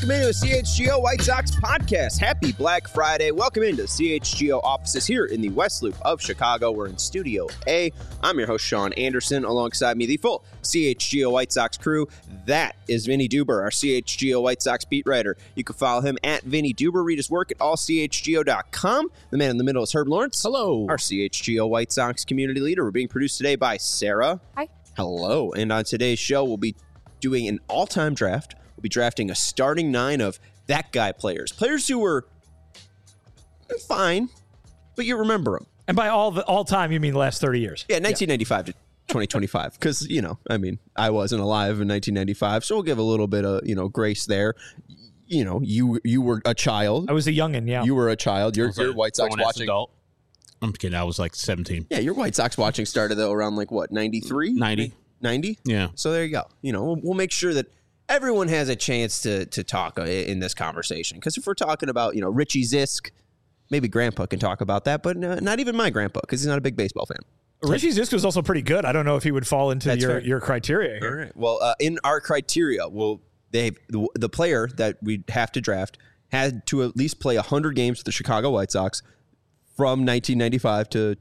Welcome into the CHGO White Sox podcast. Happy Black Friday. Welcome into the CHGO offices here in the West Loop of Chicago. We're in Studio A. I'm your host, Sean Anderson. Alongside me, the full CHGO White Sox crew. That is Vinny Duber, our CHGO White Sox beat writer. You can follow him at Vinny Duber. Read his work at allchgo.com. The man in the middle is Herb Lawrence. Hello. Our CHGO White Sox community leader. We're being produced today by Sarah. Hi. Hello. And on today's show, we'll be doing an all-time draft. We'll be drafting a starting nine of that guy players. Players who were fine, but you remember them. And by all time, you mean the last 30 years? Yeah, 1995 to 2025. Because, I wasn't alive in 1995, so we'll give a little bit of, grace there. You were a child. I was a youngin', yeah. You were a child. Your White Sox watching. Adult. I'm kidding. I was like 17. Yeah, your White Sox watching started, though, around 93? 90. 90? Yeah. So there you go. We'll make sure that everyone has a chance to talk in this conversation. Because if we're talking about, Richie Zisk, maybe Grandpa can talk about that, but not even my grandpa, because he's not a big baseball fan. Richie Zisk was also pretty good. I don't know if he would fall into your criteria here. All right. Well, in our criteria, the player that we have to draft had to at least play 100 games for the Chicago White Sox from 1995 to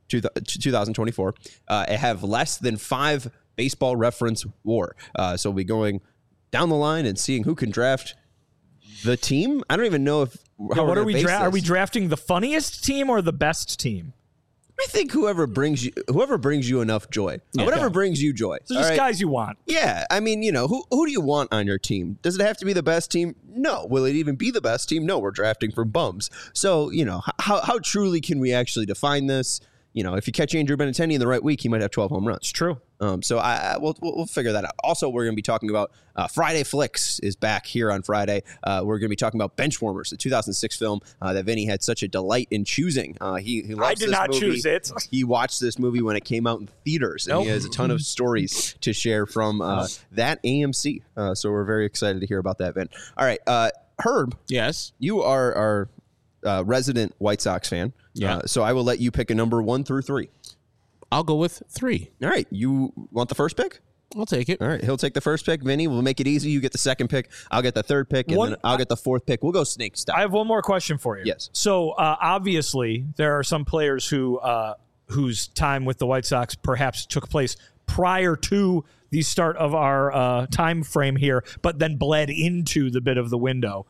2024. Have less than 5 baseball reference WAR. So we'll be going down the line and seeing who can draft the team. I don't even know if what are we are we drafting the funniest team or the best team? I think whoever brings you enough joy. Yeah. Whatever brings you joy. So just guys you want. Yeah. I mean, who do you want on your team? Does it have to be the best team? No. Will it even be the best team? No, we're drafting from bums. So, how truly can we actually define this? If you catch Andrew Benintendi in the right week, he might have 12 home runs. It's true. So we'll figure that out. Also, we're going to be talking about Friday Flicks is back here on Friday. We're going to be talking about Benchwarmers, the 2006 film that Vinny had such a delight in choosing. He loves I did this not movie. choose it. He watched this movie when it came out in theaters, and he has a ton of stories to share from that AMC. So we're very excited to hear about that, Vin. All right, Herb. Yes. You are our resident White Sox fan. Yeah. So I will let you pick a number 1 through 3. I'll go with 3. All right. You want the first pick? I'll take it. All right. He'll take the first pick. Vinny, we'll make it easy. You get the second pick. I'll get the third pick, and then I'll get the fourth pick. We'll go snake style. I have one more question for you. Yes. So obviously there are some players who whose time with the White Sox perhaps took place prior to the start of our time frame here, but then bled into the bit of the window.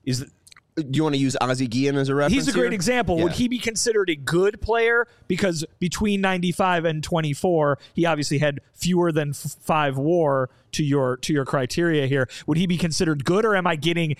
Do you want to use Ozzie Guillen as a reference? He's a great here? example. Yeah. Would he be considered a good player? Because between 95 and 24, he obviously had fewer than 5 WAR to your criteria here. Would he be considered good, or am I getting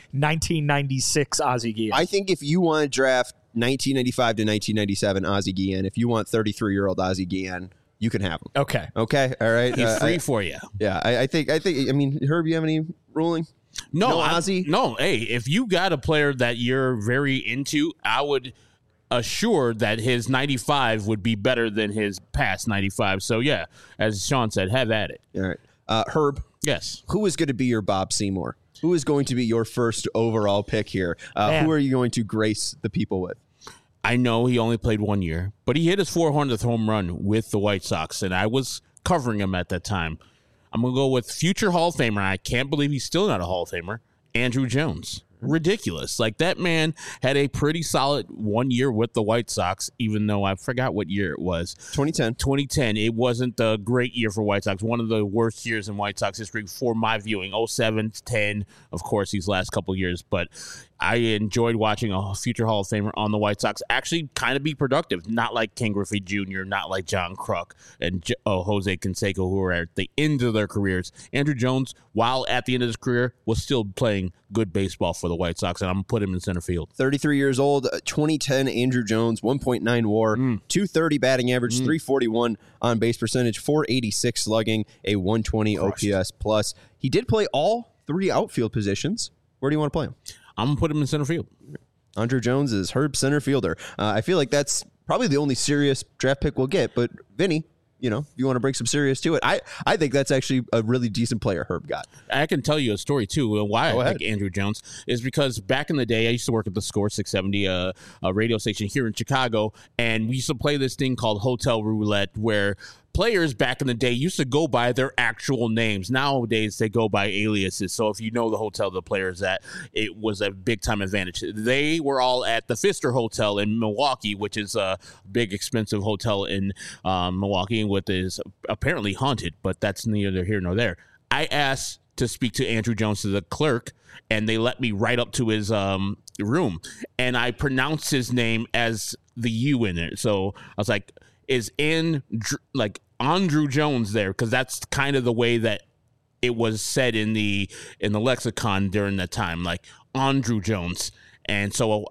1996 Ozzie Guillen? I think if you want to draft 1995 to 1997 Ozzie Guillen, if you want 33-year-old Ozzie Guillen, you can have him. Okay. All right. He's free for you. Yeah. I think. Herb, you have any ruling? No, Ozzie? No. Hey, if you got a player that you're very into, I would assure that his 95 would be better than his past 95. So, yeah, as Sean said, have at it. All right. Herb. Yes. Who is going to be your Bob Seymour? Who is going to be your first overall pick here? Who are you going to grace the people with? I know he only played 1 year, but he hit his 400th home run with the White Sox, and I was covering him at that time. I'm going to go with future Hall of Famer. I can't believe he's still not a Hall of Famer. Andrew Jones. Ridiculous. Like, that man had a pretty solid 1 year with the White Sox, even though I forgot what year it was. 2010. It wasn't a great year for White Sox. One of the worst years in White Sox history for my viewing. 07, 10, of course, these last couple years. But I enjoyed watching a future Hall of Famer on the White Sox actually kind of be productive. Not like Ken Griffey Jr., not like John Kruk and Jose Canseco, who are at the end of their careers. Andrew Jones, while at the end of his career, was still playing good baseball for the White Sox, and I'm going to put him in center field. 33 years old, 2010 Andrew Jones, 1.9 WAR, 230 batting average, 341 on base percentage, 486 slugging, a 120 OPS plus. He did play all 3 outfield positions. Where do you want to play him? I'm going to put him in center field. Andrew Jones is Herb's center fielder. I feel like that's probably the only serious draft pick we'll get, but Vinny, if you want to bring some serious to it, I think that's actually a really decent player Herb got. I can tell you a story, too. Why I pick Andrew Jones is because back in the day, I used to work at the Score 670, a radio station here in Chicago, and we used to play this thing called Hotel Roulette, where players back in the day used to go by their actual names. Nowadays, they go by aliases. So if you know the hotel the player's at, it was a big-time advantage. They were all at the Pfister Hotel in Milwaukee, which is a big, expensive hotel in Milwaukee, which is apparently haunted, but that's neither here nor there. I asked to speak to Andrew Jones, the clerk, and they let me right up to his room. And I pronounced his name as the U in it. So I was like, is Andrew Jones there? Because that's kind of the way that it was said in the lexicon during that time, like Andrew Jones. And so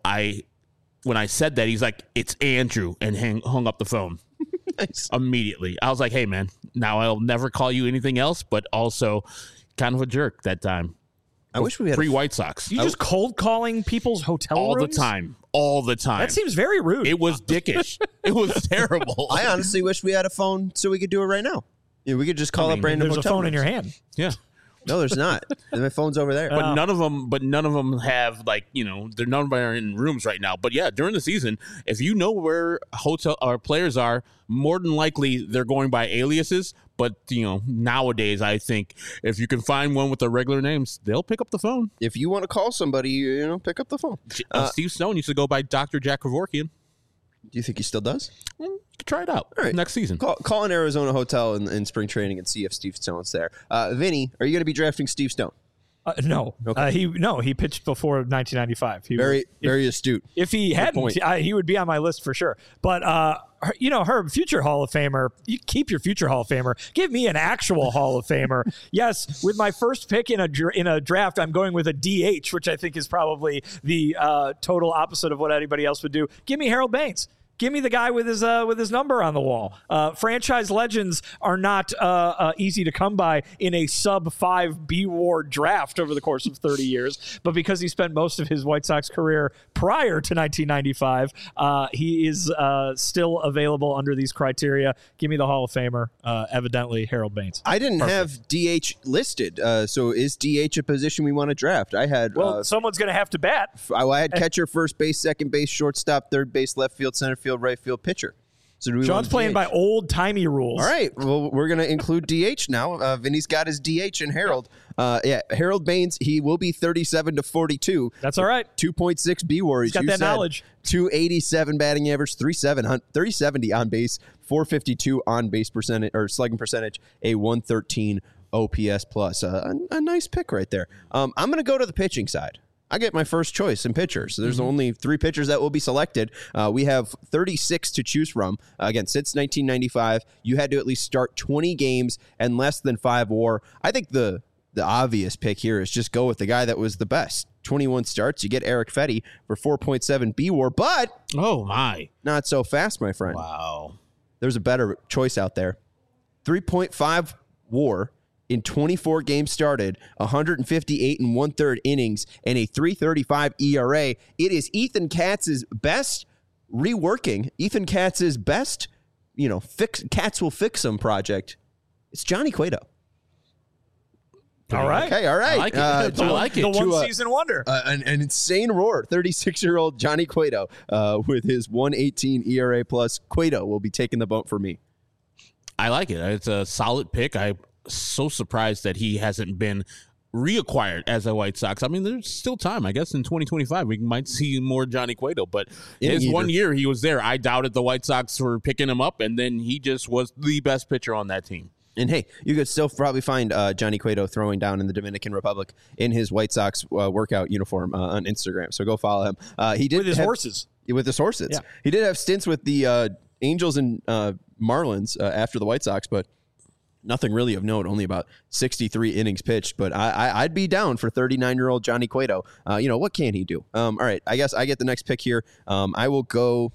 when I said that, he's like, it's Andrew, and hung up the phone. Nice. Immediately. I was like, hey, man, now I'll never call you anything else, but also kind of a jerk that time. I wish we had free White Sox. You just cold calling people's hotel all rooms? All the time. That seems very rude. It was dickish. It was terrible. I honestly wish we had a phone so we could do it right now. Yeah, we could just call up random There's a hotel phone in rooms. your hand. Yeah. No, there's not. My phone's over there. But none of them have, like, you know, they're none of them are in rooms right now. But yeah, during the season, if you know where hotel or players are, more than likely they're going by aliases. But, you know, nowadays, I think if you can find one with their regular names, they'll pick up the phone. If you want to call somebody, you know, pick up the phone. Steve Stone used to go by Dr. Jack Kevorkian. Do you think he still does? You could try it out right. next season. Call an Arizona hotel in spring training and see if Steve Stone's there. Vinny, are you going to be drafting Steve Stone? No. Okay. He pitched before 1995. Very astute. If he hadn't, he would be on my list for sure. But Herb, future Hall of Famer. You keep your future Hall of Famer. Give me an actual Hall of Famer. Yes, with my first pick in a draft, I'm going with a DH, which I think is probably the total opposite of what anybody else would do. Give me Harold Baines. Give me the guy with his number on the wall. Franchise legends are not easy to come by in a sub-5 B-War draft over the course of 30 years. But because he spent most of his White Sox career prior to 1995, he is still available under these criteria. Give me the Hall of Famer, evidently Harold Baines. I didn't have DH listed. So is DH a position we want to draft? I had. Someone's going to have to bat. I had catcher, first base, second base, shortstop, third base, left field, center field, right field, pitcher. So do we John's playing by old-timey rules. All right. Well, we're going to include DH now. Vinny's got his DH and Harold. Harold Baines, he will be 37 to 42. That's all right. 2.6 B-WAR. He's got that knowledge. 287 batting average, 370 on base, 452 on base percentage or slugging percentage, a 113 OPS plus. A nice pick right there. I'm going to go to the pitching side. I get my first choice in pitchers. So there's only 3 pitchers that will be selected. We have 36 to choose from. Again, since 1995, you had to at least start 20 games and less than 5 WAR. I think the obvious pick here is just go with the guy that was the best. 21 starts. You get Eric Fetty for 4.7 B-WAR, but not so fast, my friend. Wow. There's a better choice out there. 3.5 WAR. In 24 games started, 158 and 1/3 innings, and a 3.35 ERA. It is Ethan Katz's best reworking. Ethan Katz's best, Katz will fix him project. It's Johnny Cueto. All right. Okay, all right. I like it. I like it. The one-season wonder. An insane roar. 36-year-old Johnny Cueto with his 1.18 ERA plus. Cueto will be taking the bump for me. I like it. It's a solid pick. I'm so surprised that he hasn't been reacquired as a White Sox. I mean, there's still time. I guess in 2025 we might see more Johnny Cueto, but his 1 year he was there. I doubted the White Sox were picking him up, and then he just was the best pitcher on that team. And hey, you could still probably find Johnny Cueto throwing down in the Dominican Republic in his White Sox workout uniform on Instagram. So go follow him. He did with his horses. With his horses. Yeah. He did have stints with the Angels and Marlins after the White Sox, but nothing really of note, only about 63 innings pitched, but I'd be down for 39-year-old Johnny Cueto. What can he do? All right, I guess I get the next pick here. I will go.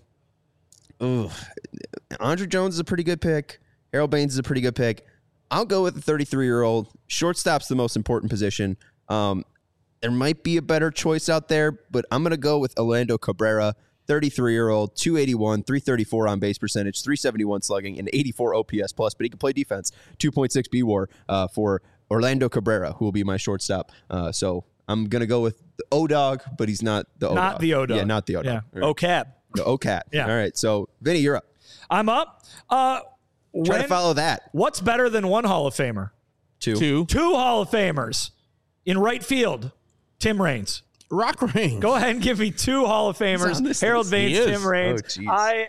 Andrew Jones is a pretty good pick. Harold Baines is a pretty good pick. I'll go with the 33-year-old. Shortstop's the most important position. There might be a better choice out there, but I'm going to go with Orlando Cabrera. 33-year-old, 281, 334 on base percentage, 371 slugging, and 84 OPS plus, but he can play defense. 2.6 B-WAR for Orlando Cabrera, who will be my shortstop. So I'm going to go with the O-Dog, but he's not the O-Dog. Not the O-Dog. Yeah, not the O-Dog. Yeah. Right. O-Cab. The O-Cat. Yeah. All right, so Vinny, you're up. I'm up. Try to follow that. What's better than one Hall of Famer? Two. Two Hall of Famers. In right field, Tim Raines. Rock Raines. Go ahead and give me two Hall of Famers. Harold Baines, Tim Raines.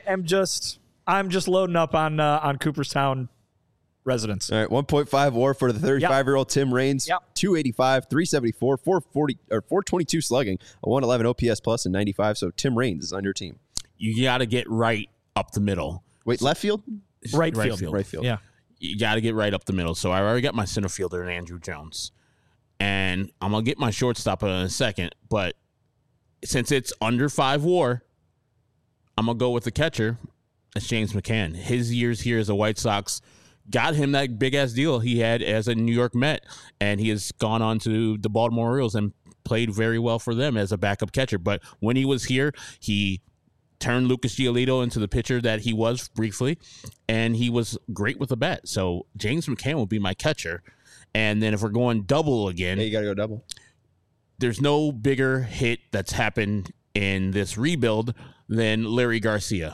I'm just loading up on Cooperstown residents. All right, 1.5 WAR for the 35-year-old Tim Raines. 285, 374, 440 or 422 slugging, a 111 OPS plus and 95. So Tim Raines is on your team. You got to get right up the middle. Wait, left field? Right field. Right field. Yeah. You got to get right up the middle. So I already got my center fielder in Andrew Jones. And I'm going to get my shortstop in a second. But since it's under 5 WAR, I'm going to go with the catcher. That's James McCann. His years here as a White Sox got him that big-ass deal he had as a New York Met. And he has gone on to the Baltimore Orioles and played very well for them as a backup catcher. But when he was here, he turned Lucas Giolito into the pitcher that he was briefly, and he was great with the bat. So James McCann will be my catcher. And then if we're going double again, Yeah, you got to go double. there's no bigger hit that's happened in this rebuild than Larry Garcia.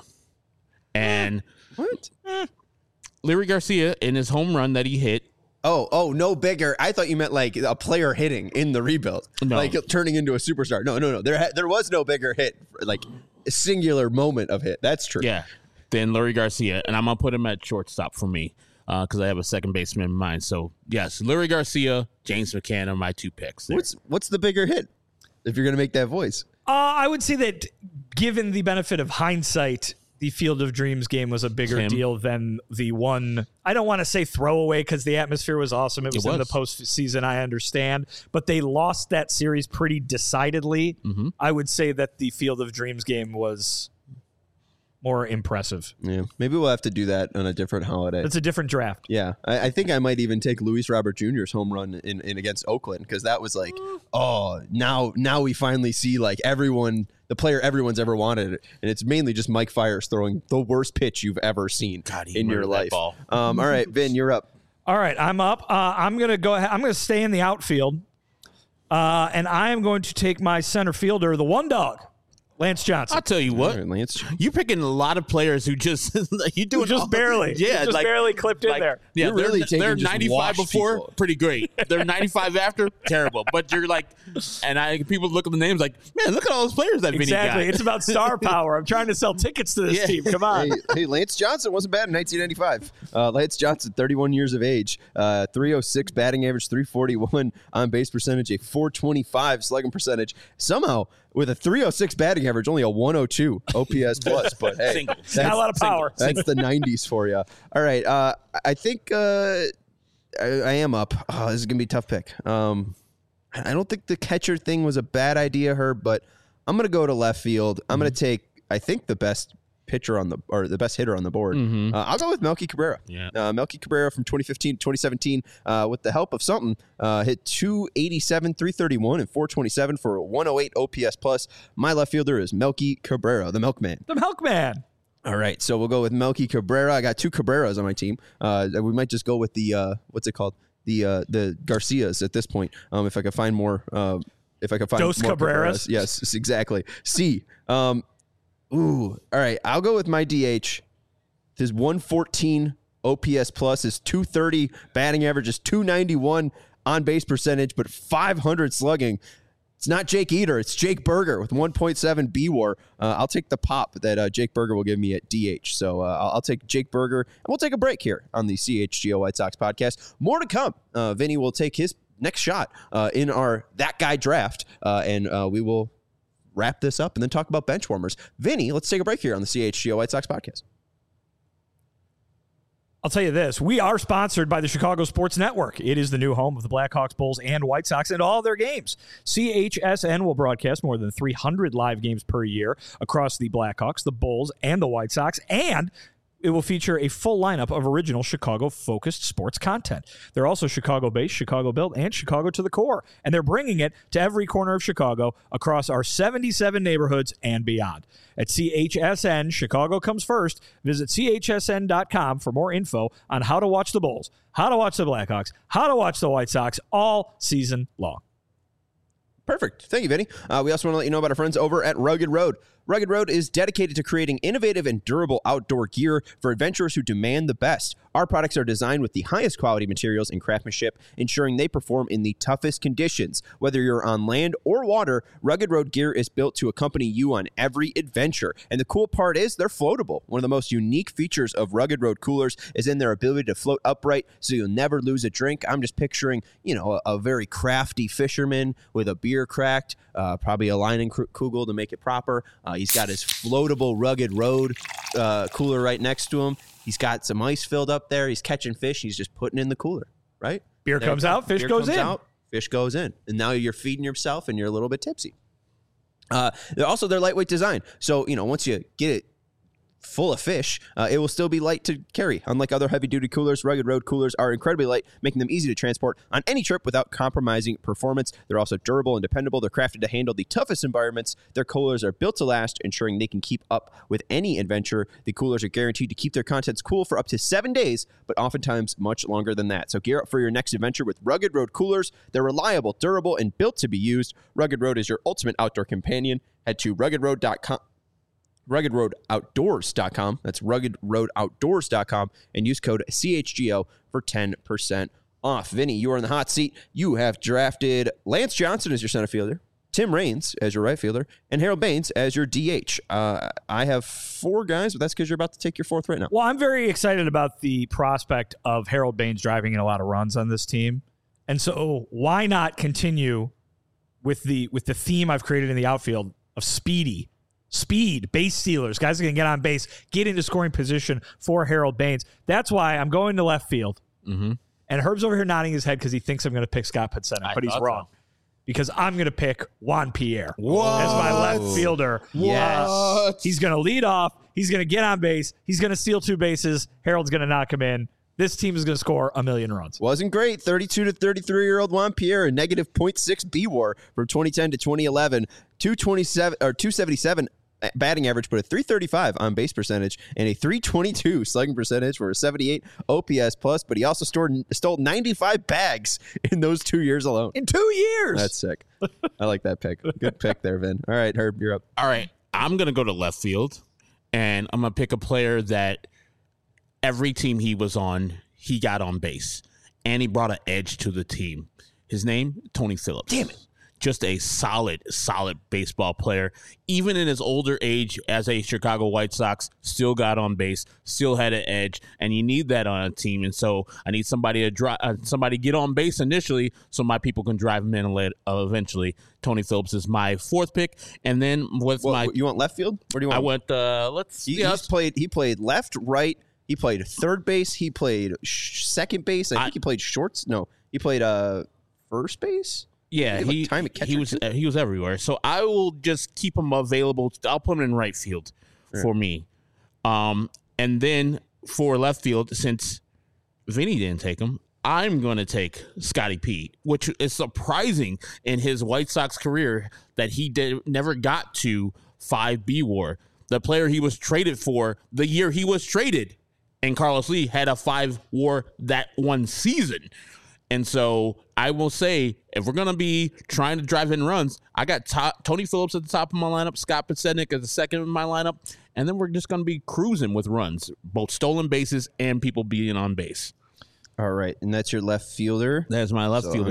And What? Larry Garcia, in his home run that he hit, Oh, no bigger. I thought you meant like a player hitting in the rebuild, No. like turning into a superstar. No. There was no bigger hit, like a singular moment of hit. That's true. yeah, than Larry Garcia. And I'm going to put him at shortstop for me because I have a second baseman in mind. So, yes, Larry Garcia, James McCann are my two picks there. What's the bigger hit? If you're gonna make that voice, I would say that given the benefit of hindsight, the Field of Dreams game was a bigger deal than the one. I don't want to say throwaway because the atmosphere was awesome. It was in the postseason, I understand. But they lost that series pretty decidedly. Mm-hmm. I would say that the Field of Dreams game was more impressive. yeah, maybe we'll have to do that on a different holiday. It's a different draft. Yeah, I think I might even take Luis Robert Jr.'s home run in against Oakland because that was like, now we finally see like the player everyone's ever wanted, and it's mainly just Mike Fiers throwing the worst pitch you've ever seen in your life. Ball. All right, Vin, you're up. All right, I'm up. I'm gonna go ahead. I'm gonna stay in the outfield, and I am going to take my center fielder, the one dog, Lance Johnson. I'll tell you what, All right, Lance. you're picking a lot of players who just you doing just all- barely, yeah, just barely clipped in there. Yeah, You're really taking they're just 95 washed before, people. pretty great. They're 95 after, terrible. But you're like, and people look at the names like, man, look at all those players that Vinny Exactly. got. It's about star power. I'm trying to sell tickets to this Yeah. team. Come on. Hey, Lance Johnson wasn't bad in 1995. Lance Johnson, 31 years of age, 306 batting average, 341 on base percentage, a 425 slugging percentage. Somehow, with a 306 batting average, only a 102 OPS plus. But hey, Single. that's, Not a lot of power. that's the 90s for you. All right, I think I am up. Oh, this is gonna be a tough pick. I don't think the catcher thing was a bad idea, Herb, but I'm gonna go to left field. I'm gonna take, I think, the best pitcher the best hitter on the board. I'll go with Melky Cabrera. Yeah. Melky Cabrera from 2015 to 2017, with the help of something, hit 287, 331, and 427 for a 108 OPS plus. My left fielder is Melky Cabrera, the Milkman. The Milkman. All right, so we'll go with Melky Cabrera. I got two Cabreras on my team. We might just go with the what's it called? The Garcias at this point. If I could find more. If I could find Dos more Cabreras? Yes, exactly. C. All right. I'll go with my DH. His 114 OPS plus, his 230 batting average, is 291 on base percentage, but 500 slugging. It's not Jake Eater. It's Jake Berger with 1.7 B-WAR. I'll take the pop that Jake Berger will give me at DH. So I'll take Jake Berger, and we'll take a break here on the CHGO White Sox podcast. More to come. Vinny will take his next shot in our That Guy draft, and we will wrap this up and then talk about bench warmers. Vinny, let's take a break here on the CHGO White Sox podcast. I'll tell you this. We are sponsored by the Chicago Sports Network. It is the new home of the Blackhawks, Bulls, and White Sox and all their games. CHSN will broadcast more than 300 live games per year across the Blackhawks, the Bulls, and the White Sox, and it will feature a full lineup of original Chicago-focused sports content. They're also Chicago-based, Chicago-built, and Chicago to the core, and they're bringing it to every corner of Chicago across our 77 neighborhoods and beyond. At CHSN, Chicago comes first. Visit chsn.com for more info on how to watch the Bulls, how to watch the Blackhawks, how to watch the White Sox all season long. Perfect. Thank you, Vinny. We also want to let you know about our friends over at Rugged Road. Rugged Road is dedicated to creating innovative and durable outdoor gear for adventurers who demand the best. Our products are designed with the highest quality materials and craftsmanship, ensuring they perform in the toughest conditions. Whether you're on land or water, Rugged Road gear is built to accompany you on every adventure. And the cool part is they're floatable. One of the most unique features of Rugged Road coolers is in their ability to float upright so you'll never lose a drink. I'm just picturing, a very crafty fisherman with a beer cracked, probably a Leinenkugel to make it proper. He's got his floatable Rugged Road cooler right next to him. He's got some ice filled up there. He's catching fish. He's just putting in the cooler, right? Beer comes out, fish goes in. Fish goes in. And now you're feeding yourself and you're a little bit tipsy. They're lightweight design. So, once you get it full of fish, it will still be light to carry. Unlike other heavy-duty coolers, Rugged Road coolers are incredibly light, making them easy to transport on any trip without compromising performance. They're also durable and dependable. They're crafted to handle the toughest environments. Their coolers are built to last, ensuring they can keep up with any adventure. The coolers are guaranteed to keep their contents cool for up to 7 days, but oftentimes much longer than that. So gear up for your next adventure with Rugged Road coolers. They're reliable, durable, and built to be used. Rugged Road is your ultimate outdoor companion. Head to ruggedroadoutdoors.com. That's ruggedroadoutdoors.com and use code CHGO for 10% off. Vinny, you are in the hot seat. You have drafted Lance Johnson as your center fielder, Tim Raines as your right fielder, and Harold Baines as your DH. I have 4 guys, but that's because you're about to take your 4th right now. Well, I'm very excited about the prospect of Harold Baines driving in a lot of runs on this team. And so why not continue with the theme I've created in the outfield of speed, base stealers, guys that can get on base, get into scoring position for Harold Baines. That's why I'm going to left field. Mm-hmm. And Herb's over here nodding his head because he thinks I'm going to pick Scott Podsednik, but he's wrong. So. Because I'm going to pick Juan Pierre as my left fielder. Yes. He's going to lead off. He's going to get on base. He's going to steal 2 bases. Harold's going to knock him in. This team is going to score 1 million runs. Wasn't great. 32 to 33-year-old Juan Pierre, a negative .6 B-WAR from 2010 to 2011, 277 batting average, but a 335 on base percentage and a 322 slugging percentage for a 78 OPS plus. But he also stole 95 bags in those 2 years alone. In 2 years. That's sick. I like that pick. Good pick there, Vin. All right, Herb, you're up. All right, I'm going to go to left field, and I'm going to pick a player that every team he was on, he got on base, and he brought an edge to the team. His name, Tony Phillips. Damn it. Just a solid baseball player. Even in his older age as a Chicago White Sox, still got on base, still had an edge, and you need that on a team. And so I need somebody to get on base initially so my people can drive him in eventually. Tony Phillips is my 4th pick. And then you want left field? Where do you want? I went, He played left, right. He played third base. He played second base. I think he played shorts. No, he played first base. Yeah, he was everywhere. So I will just keep him available. I'll put him in right field for me. And then for left field, since Vinny didn't take him, I'm going to take Scotty P, which is surprising in his White Sox career that he never got to 5 B-WAR. The player he was traded for the year he was traded, and Carlos Lee had a 5 WAR that one season. And so I will say, if we're going to be trying to drive in runs, I got Tony Phillips at the top of my lineup, Scott Podsednik at the second of my lineup, and then we're just going to be cruising with runs, both stolen bases and people being on base. All right, and that's your left fielder. That's my left fielder.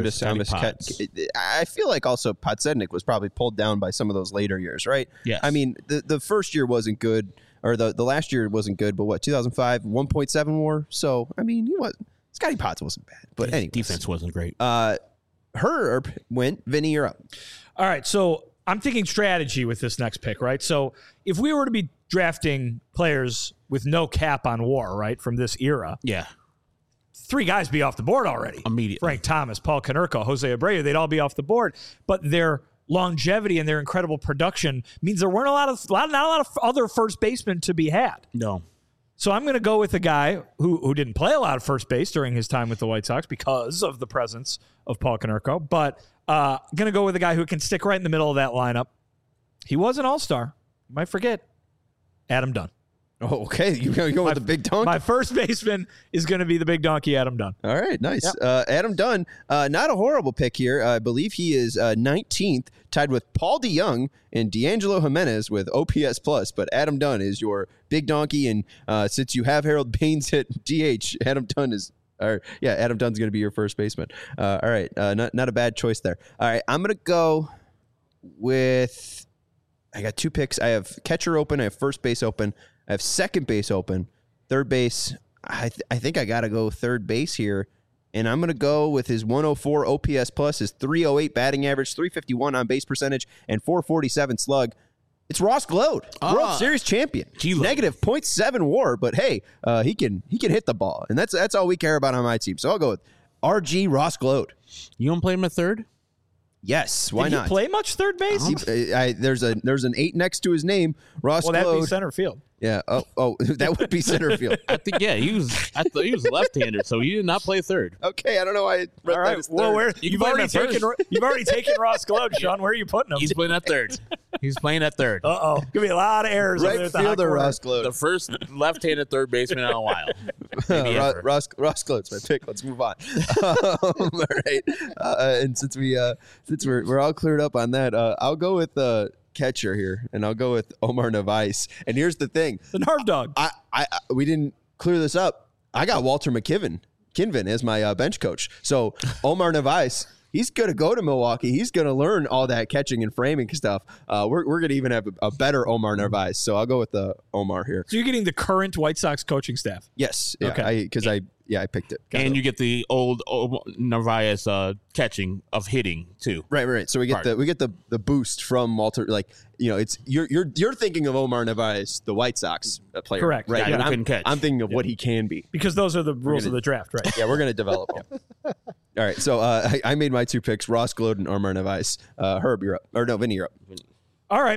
I feel like also Podsednik was probably pulled down by some of those later years, right? Yes. I mean, the first year wasn't good, or the last year wasn't good, but 2005, 1.7 WAR. So, I mean, Scotty Potts wasn't bad, but anyway, defense wasn't great. Herb went. Vinny, you're up. All right, so I'm thinking strategy with this next pick, right? So if we were to be drafting players with no cap on WAR, right, from this era, yeah, 3 guys be off the board already. Immediately. Frank Thomas, Paul Konerko, Jose Abreu, they'd all be off the board. But their longevity and their incredible production means there weren't not a lot of other first basemen to be had. No. So I'm going to go with a guy who didn't play a lot of first base during his time with the White Sox because of the presence of Paul Konerko, but going to go with a guy who can stick right in the middle of that lineup. He was an all-star. You might forget. Adam Dunn. Oh, okay. You go with the big donkey. My first baseman is going to be the big donkey, Adam Dunn. All right, nice. Yep. Adam Dunn, not a horrible pick here. I believe he is 19th, tied with Paul DeYoung and D'Angelo Jimenez with OPS plus. But Adam Dunn is your big donkey, and since you have Harold Baines at DH, Adam Dunn's going to be your first baseman. All right, not a bad choice there. All right, I'm gonna go with. I got 2 picks. I have catcher open. I have first base open. I have second base open. Third base, I think I got to go third base here. And I'm going to go with his 104 OPS plus, his 308 batting average, 351 on base percentage, and 447 slug. It's Ross Glode, World Series champion. Negative .7 WAR, but hey, he can hit the ball. And that's all we care about on my team. So I'll go with RG Ross Glode. You want to play him at third? Yes, why Did not? he play much third base? There's an 8 next to his name, Ross Glode. Well, that'd be center field. Yeah. Oh, that would be center field. I think he was left-handed, so he did not play third. Okay, I don't know why. I read All right. that as Well, third. you've already taken Ross Glode, Sean. Where are you putting him? He's playing at third. He's playing at third. Uh-oh. Gonna be a lot of errors. over there Right at the hot fielder corner. Ross Glode. The first left-handed third baseman in a while. Maybe ever. Ross Glode's my pick. Let's move on. All right. And since we're all cleared up on that, I'll go with catcher here, and I'll go with Omar Narvaez. And here's the thing: The Narv Dog. we didn't clear this up. I got Walter Kinvin as my bench coach. So Omar Narvaez, he's going to go to Milwaukee. He's going to learn all that catching and framing stuff. We're going to even have a better Omar Narvaez. So I'll go with Omar here. So you're getting the current White Sox coaching staff. Yes. Yeah, Okay. I picked it. And you get the old Narvaez catching of hitting too. Right. So we get the boost from Walter. Like, it's you're thinking of Omar Narvaez, the White Sox player. Correct. Right. Guy But who couldn't catch. I'm thinking of what he can be. Because those are the rules of the draft, right? Yeah, we're going to develop him. All right. So I made my 2 picks: Ross Glode and Omar Narvaez. Herb, you're up. Or no, Vinny, you're up. All right.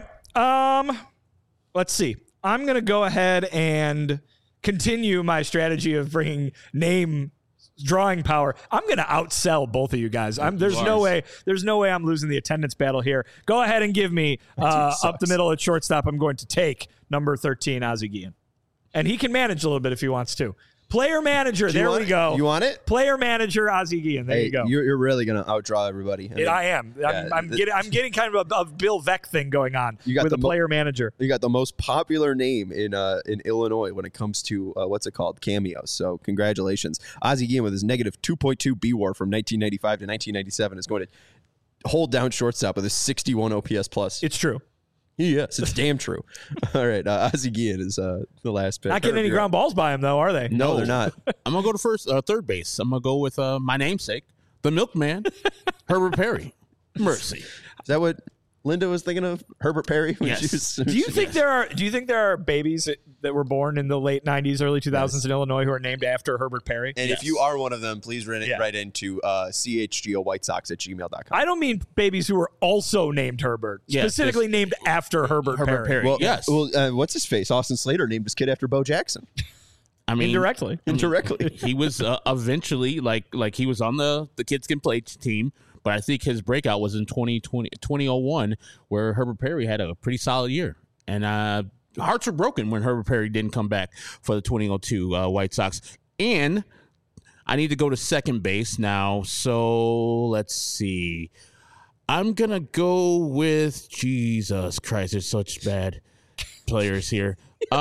Let's see. I'm going to go ahead and continue my strategy of bringing name drawing power. I'm going to outsell both of you guys. There's no way I'm losing the attendance battle here. Go ahead and give me up the middle at shortstop. I'm going to take number 13, Ozzie Guillen. And he can manage a little bit if he wants to. Player manager. There we go. You want it? Player manager, Ozzie Guillen. There you go. You're really going to outdraw everybody. I am. I'm getting kind of a Bill Veeck thing going on with a player manager. You got the most popular name in Illinois when it comes to what's it called, cameos. So congratulations, Ozzie Guillen with his negative 2.2 BWAR from 1995 to 1997 is going to hold down shortstop with a 61 OPS plus. It's true. Yes, it's damn true. All right, Ozzie Guillen is the last pick. Not getting any ground balls by him though, are they? No, they're not. I'm gonna go to third base. I'm gonna go with my namesake, the milkman, Herbert Perry. Mercy. Is that what Linda was thinking of? Herbert Perry? Yes. Do you think there are babies that were born in the late 90s, early 2000s in Illinois who are named after Herbert Perry? And if you are one of them, please write into chgowhitesox@gmail.com. I don't mean babies who were also named Herbert, specifically named after Herbert Perry. Well, yes. Well, what's his face? Austin Slater named his kid after Bo Jackson. I mean, Indirectly. He was eventually like he was on the Kids Can Play team, but I think his breakout was in 2001, where Herbert Perry had a pretty solid year. And hearts were broken when Herbert Perry didn't come back for the 2002 White Sox. And I need to go to second base now. So let's see. I'm going to go with Jesus Christ. There's such bad players here.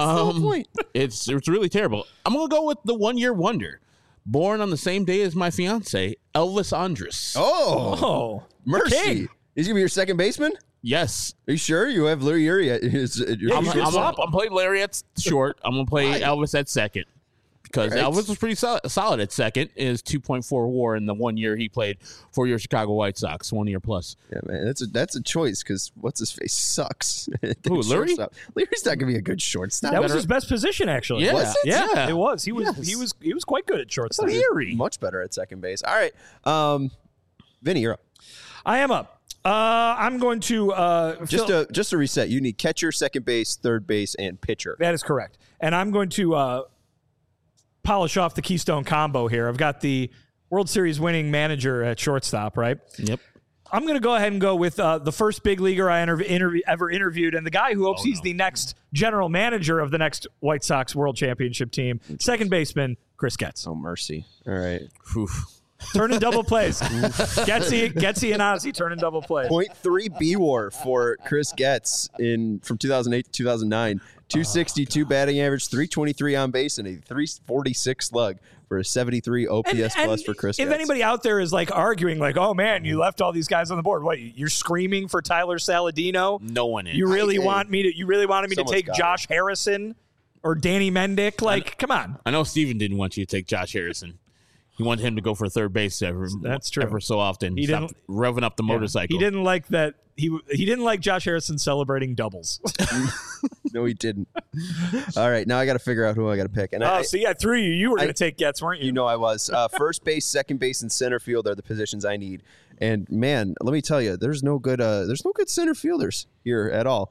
It's really terrible. I'm going to go with the 1 year wonder. Born on the same day as my fiance, Elvis Andrus. Oh, mercy. King. Is he going to be your second baseman? Yes. Are you sure? You have Larry Erie at I'm playing Larry at short. I'm going to play Elvis at second. Because Elvis was pretty solid at second. Is 2.4 WAR in the 1 year he played for your Chicago White Sox, 1 year plus. Yeah, man, that's a choice because what's his face sucks. Who, Larry? Larry's not gonna be a good shortstop. That was his best position, actually. Yeah. Was it? Yeah, it was. He was quite good at shortstop. Much better at second base. All right, Vinny, you're up. I am up. I'm going to just to reset. You need catcher, second base, third base, and pitcher. That is correct. And I'm going to polish off the Keystone combo here. I've got the World Series winning manager at shortstop, right? Yep. I'm going to go ahead and go with the first big leaguer I ever interviewed, and the guy who hopes he's the next general manager of the next White Sox World Championship team, second baseman Chris Getz. Oh, mercy. All right. Turning double plays. Getzy and Ozzie turning double plays. 0.3 B-WAR for Chris Getz from 2008 to 2009. 262 batting average, 323 on base, and a 346 slug for a 73 OPS plus for Chris Getz. If anybody out there is like arguing, like, oh man, you left all these guys on the board. What, you're screaming for Tyler Saladino? No one is. You really wanted me to take Josh it. Harrison or Danny Mendick? Like, come on. I know Steven didn't want you to take Josh Harrison. He wanted him to go for third base That's true. ever so often. He didn't revving up the motorcycle. He didn't like that. He didn't like Josh Harrison celebrating doubles. No, he didn't. All right, now I got to figure out who I got to pick. And I threw you. You were going to take Getz, weren't you? You know I was. First base, second base, and center field are the positions I need. And man, let me tell you, there's no good center fielders here at all.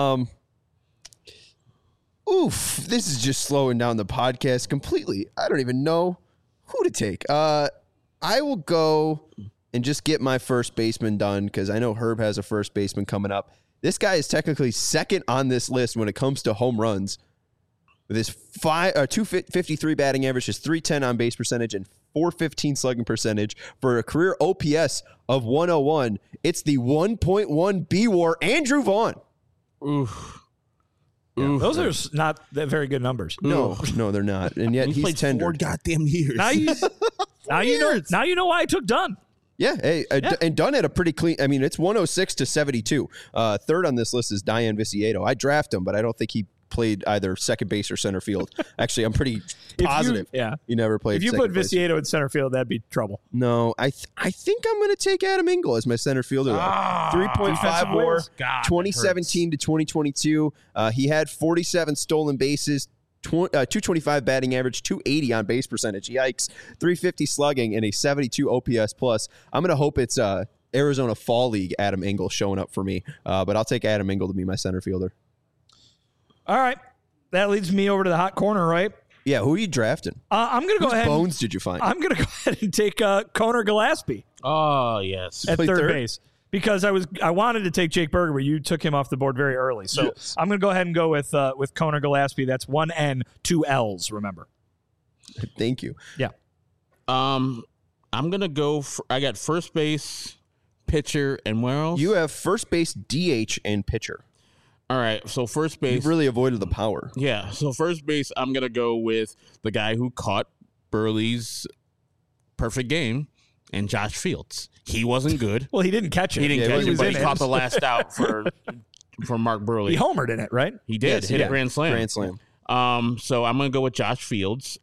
This is just slowing down the podcast completely. I don't even know who to take. I will go and just get my first baseman done because I know Herb has a first baseman coming up. This guy is technically second on this list when it comes to home runs. With his 253 batting average, his 310 on base percentage, and 415 slugging percentage for a career OPS of 101. It's the 1.1 B-WAR, Andrew Vaughn. Oof. Yeah, those are not that very good numbers. No, they're not. And yet he's played tender. 4 goddamn years. Now you know why I took Dunn. Yeah, and Dunn had a pretty clean. I mean, it's 106 to 72. Third on this list is Diane Viciedo. I draft him, but I don't think he played either second base or center field. Actually, I'm pretty positive. He never played. If you put Viciedo in center field, that'd be trouble. No, I think I'm going to take Adam Engel as my center fielder. 3.5 WAR, 2017 to 2022. He had 47 stolen bases. 225 batting average, 280 on base percentage. Yikes. 350 slugging and a 72 OPS plus. I'm going to hope it's Arizona Fall League Adam Engel showing up for me. But I'll take Adam Engel to be my center fielder. All right. That leads me over to the hot corner, right? Yeah, who are you drafting? I'm going to go ahead. Whose bones did you find? I'm going to go ahead and take Conor Gillespie. Oh, yes. At third base. Because I wanted to take Jake Burger, but you took him off the board very early. So yes. I'm going to go ahead and go with Conor Gillespie. That's 1 N, 2 L's, remember. Thank you. Yeah. I'm going to go I got first base, pitcher, and where else? You have first base, DH, and pitcher. All right, so first base. You've really avoided the power. Yeah, so first base, I'm going to go with the guy who caught Burley's perfect game, and Josh Fields. He wasn't good. Well, he didn't catch it. He didn't catch it, but he caught the last out for Mark Burley. He homered in it, right? He did. Yes, hit a grand slam. Grand slam. So I'm going to go with Josh Fields,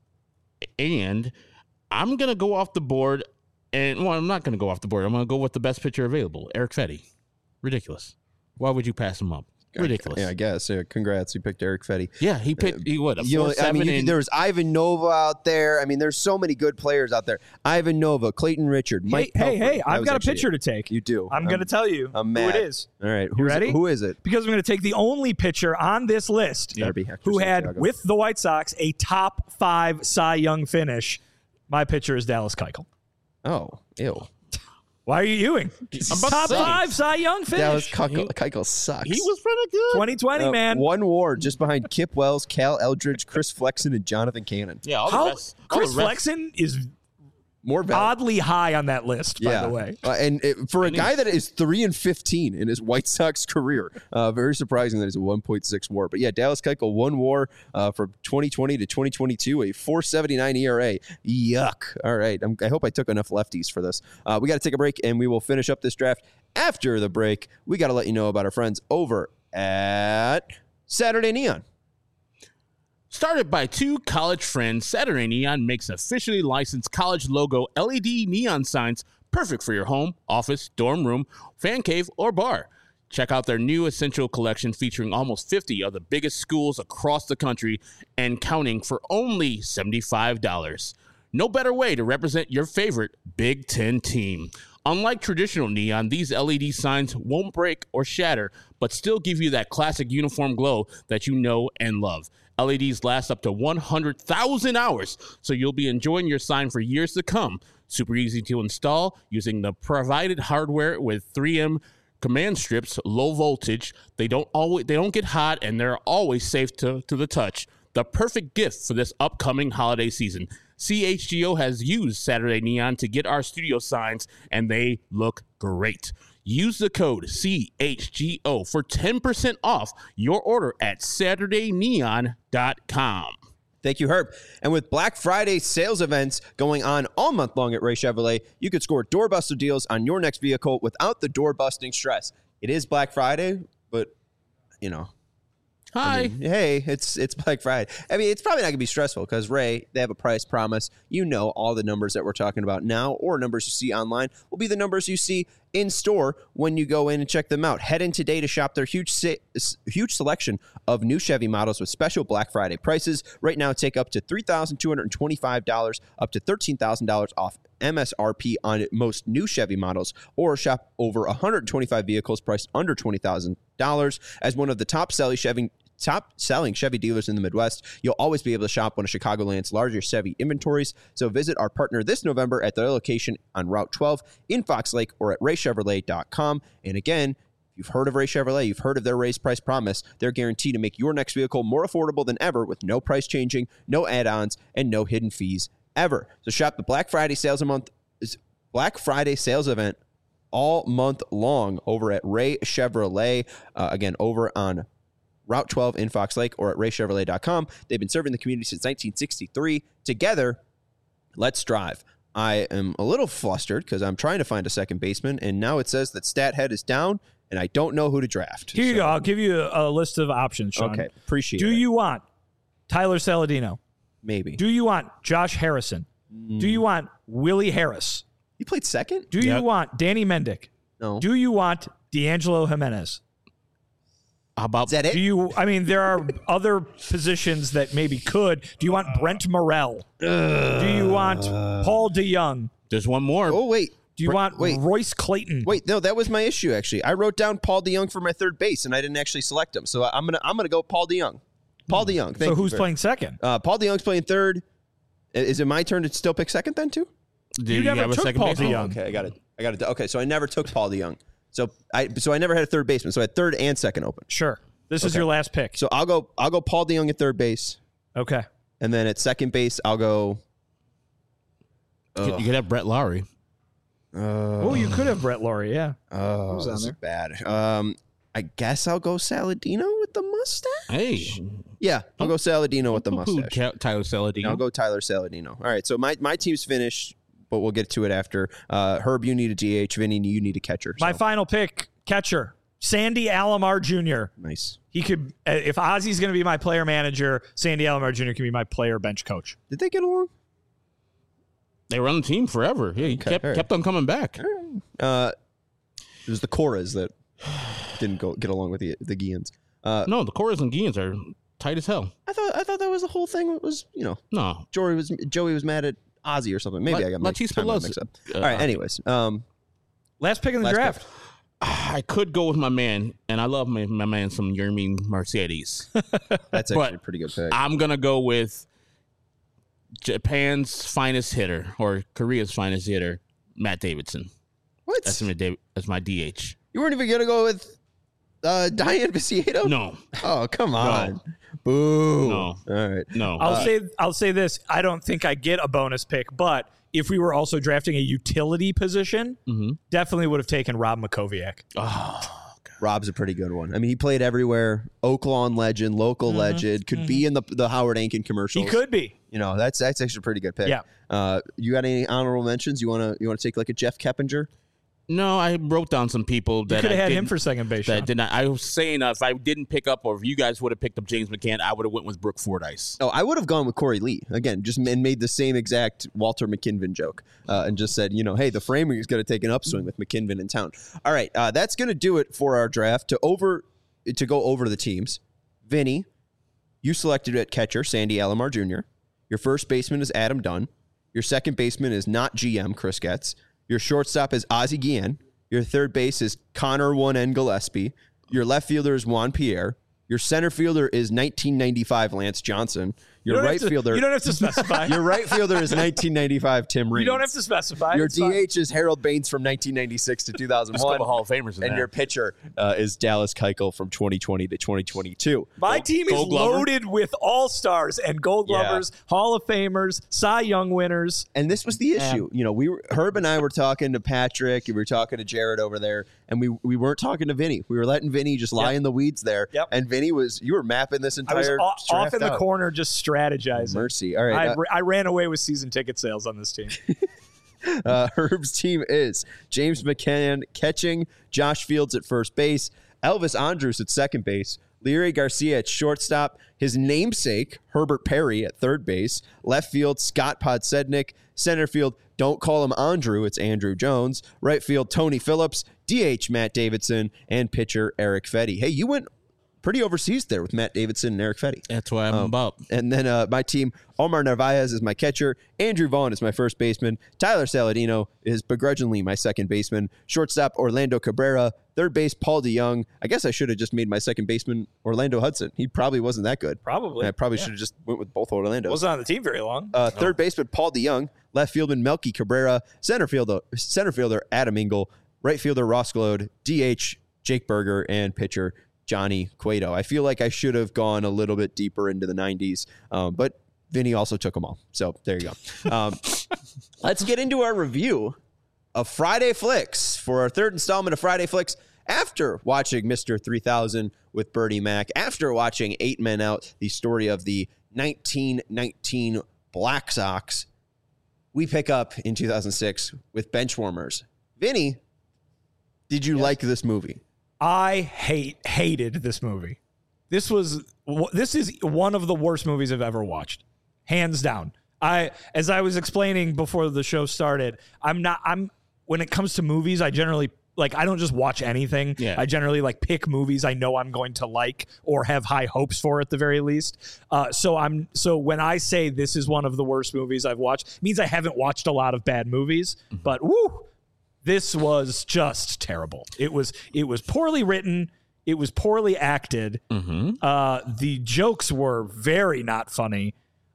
and I'm going to go off the board. And I'm not going to go off the board. I'm going to go with the best pitcher available, Eric Fetty. Ridiculous. Why would you pass him up? Ridiculous. Yeah, I guess. Yeah, congrats. You picked Eric Fetty. Yeah, he picked. He what? There was Ivan Nova out there. I mean, there's so many good players out there. Ivan Nova, Clayton Richard, Mike. Hey! I've got a pitcher to take. You do. I'm going to tell you who it is. All right, you ready? Who is it? Because I'm going to take the only pitcher on this list who had with the White Sox a top 5 Cy Young finish. My pitcher is Dallas Keuchel. Oh, ew. Why are you ewing? Top 5 Cy Young finish. Dallas Keuchel sucks. He was pretty good. 2020, man. 1 WAR just behind Kip Wells, Cal Eldridge, Chris Flexen, and Jonathan Cannon. Yeah, Chris Flexen is more oddly high on that list, by the way. For a guy that is 3-15 in his White Sox career, very surprising that he's a 1.6 WAR. But yeah, Dallas Keuchel 1 WAR from 2020 to 2022, a 4.79 ERA. Yuck. All right, I hope I took enough lefties for this. We got to take a break, and we will finish up this draft. After the break, we got to let you know about our friends over at Saturday Neon. Started by 2 college friends, Saturday Neon makes officially licensed college logo LED neon signs perfect for your home, office, dorm room, fan cave, or bar. Check out their new Essential collection featuring almost 50 of the biggest schools across the country and counting for only $75. No better way to represent your favorite Big Ten team. Unlike traditional neon, these LED signs won't break or shatter, but still give you that classic uniform glow that you know and love. LEDs last up to 100,000 hours, so you'll be enjoying your sign for years to come. Super easy to install using the provided hardware with 3M command strips, low voltage. They don't get hot, and they're always safe to the touch. The perfect gift for this upcoming holiday season. CHGO has used Saturday Neon to get our studio signs, and they look great. Use the code CHGO for 10% off your order at SaturdayNeon.com. Thank you, Herb. And with Black Friday sales events going on all month long at Ray Chevrolet, you could score doorbuster deals on your next vehicle without the door-busting stress. It is Black Friday, but, you know. Hi. I mean, hey, it's Black Friday. I mean, it's probably not going to be stressful because Ray, they have a price promise. You know all the numbers that we're talking about now or numbers you see online will be the numbers you see in store when you go in and check them out. Head in today to shop their huge selection of new Chevy models with special Black Friday prices. Right now, take up to $3,225, up to $13,000 off MSRP on most new Chevy models, or shop over 125 vehicles priced under $20,000. As one of the top selling Chevy dealers in the Midwest, you'll always be able to shop one of Chicagoland's largest Chevy inventories. So visit our partner this November at their location on Route 12 in Fox Lake or at raychevrolet.com. And again, if you've heard of Ray Chevrolet, you've heard of their raised price promise. They're guaranteed to make your next vehicle more affordable than ever with no price changing, no add-ons, and no hidden fees ever. So shop the Black Friday sales event all month long over at Ray Chevrolet. Again, over on Route 12 in Fox Lake or at raychevrolet.com. They've been serving the community since 1963. Together, let's drive. I am a little flustered because I'm trying to find a second baseman, and now it says that Stathead is down, and I don't know who to draft. Here you go. I'll give you a list of options, Sean. Okay, appreciate it. Do you want Tyler Saladino? Maybe. Do you want Josh Harrison? Do you want Willie Harris? He played second? Do you want Danny Mendick? No. Do you want D'Angelo Jimenez? How about Is that it? There are other positions that maybe could. Do you want Brent Morrell? Do you want Paul DeYoung? There's one more. Oh, wait. Do you want Royce Clayton? Wait, no, that was my issue, actually. I wrote down Paul DeYoung for my third base, and I didn't actually select him. So I'm gonna go Paul DeYoung. Paul DeYoung. So who's playing second? Paul DeYoung's playing third. Is it my turn to still pick second then, too? Do you never have a took second Paul baseman? DeYoung. Okay, I got it. Okay, so I never took Paul DeYoung. So I never had a third baseman. So I had third and second open. Sure. This is your last pick. So I'll go Paul DeYoung at third base, Okay. and then at second base I'll go. You could have Brett Lowry. Oh, you could have Brett Laurie, yeah. Oh, Who's on this is there? bad. I guess I'll go Saladino with the mustache. Hey. Yeah, I'll go Saladino with the mustache. Tyler Saladino. I'll go Tyler Saladino. All right, so my team's finished, but we'll get to it after. Herb, you need a DH. Vinny, you need a catcher. My so. final pick, catcher, Sandy Alomar Jr. Nice. He could, if Ozzy's going to be my player manager, Sandy Alomar Jr. can be my player bench coach. Did they get along? They were on the team forever. Yeah, he kept on coming back. It was the Coras that didn't get along with the Guians. No, the Coras and Guians are tight as hell. I thought that was the whole thing. Was No. Joey was mad at Ozzy or something. Maybe I got my timeline mixed up. All right. Anyways, Last pick in the draft. I could go with my man, and I love my man some Yermin Mercedes. that's actually a pretty good pick. I'm gonna go with Japan's finest hitter or Korea's finest hitter, Matt Davidson. What? That's my DH. You weren't even gonna go with Diane Viciedo? No. Oh, come on. Boo. No. All right. No. I'll say this. I don't think I get a bonus pick, but if we were also drafting a utility position, definitely would have taken Rob Makoviak. Oh, Rob's a pretty good one. I mean, he played everywhere. Oaklawn legend, local legend, could be in the Howard Ankin commercials. He could be. That's actually a pretty good pick. Yeah. You got any honorable mentions? You wanna take like a Jeff Keppinger? No, I wrote down some people that You could have had him for second base. That did not. I was saying if I didn't pick up, or if you guys would have picked up James McCann, I would have went with Brooke Fordyce. Oh, I would have gone with Corey Lee again, and made the same exact Walter McKinven joke, and just said, hey, the framing is going to take an upswing with McKinven in town. All right, that's going to do it for our draft. To go over the teams, Vinny, you selected at catcher Sandy Alomar Jr. Your first baseman is Adam Dunn. Your second baseman is not GM Chris Getz. Your shortstop is Ozzie Guillen. Your third base is Connor 1N Gillespie. Your left fielder is Juan Pierre. Your Your center fielder is 1995 Lance Johnson. Your right fielder. You don't have to specify. Your right fielder is 1995 Tim Raines. You don't have to specify. Your It's fine. DH is Harold Baines from 1996 to 2001. There's a couple Hall of Famers in And there. your pitcher is Dallas Keuchel from 2020 to 2022. My team is Gold Glover? loaded with all-stars and Gold Glovers, Hall of Famers, Cy Young winners. And this was the issue. You know, Herb and I were talking to Patrick, and we were talking to Jared over there, and we weren't talking to Vinny. We were letting Vinny just lie in the weeds there. Yep. And Vinny you were mapping this I was entire off draft in the out. corner just strategizing. Mercy. All right. I ran away with season ticket sales on this team. Herb's team is James McCann catching, Josh Fields at first base, Elvis Andrus at second base, Leary Garcia at shortstop, his namesake, Herbert Perry at third base, left field, Scott Podsednik, center field, don't call him Andrew, it's Andrew Jones, right field, Tony Phillips, DH, Matt Davidson, and pitcher, Eric Fetty. Hey, you went pretty overseas there with Matt Davidson and Eric Fetty. That's what I'm about. And then my team, Omar Narvaez is my catcher. Andrew Vaughn is my first baseman. Tyler Saladino is begrudgingly my second baseman. Shortstop, Orlando Cabrera. Third base, Paul DeYoung. I guess I should have just made my second baseman Orlando Hudson. He probably wasn't that good. Probably. I probably should have just went with both Orlandos. Wasn't on the team very long. Third baseman, Paul DeYoung. Left fielder, Melky Cabrera. Center fielder, Adam Engel. Right fielder, Ross Glode. DH, Jake Berger. And pitcher, Johnny Cueto. I feel like I should have gone a little bit deeper into the 90s, but Vinny also took them all. So there you go. Let's get into our review of Friday Flicks for our third installment of Friday Flicks. After watching Mr. 3000 with Bertie Mac, after watching 8 Men Out, the story of the 1919 Black Sox, we pick up in 2006 with Benchwarmers. Vinny, did you like this movie? I hated this movie. This is one of the worst movies I've ever watched, hands down. As I was explaining before the show started, when it comes to movies, I generally I don't just watch anything. Yeah. I generally pick movies I know I'm going to like or have high hopes for at the very least. So when I say this is one of the worst movies I've watched, it means I haven't watched a lot of bad movies, but woo. This was just terrible. It was poorly written. It was poorly acted. The jokes were very not funny.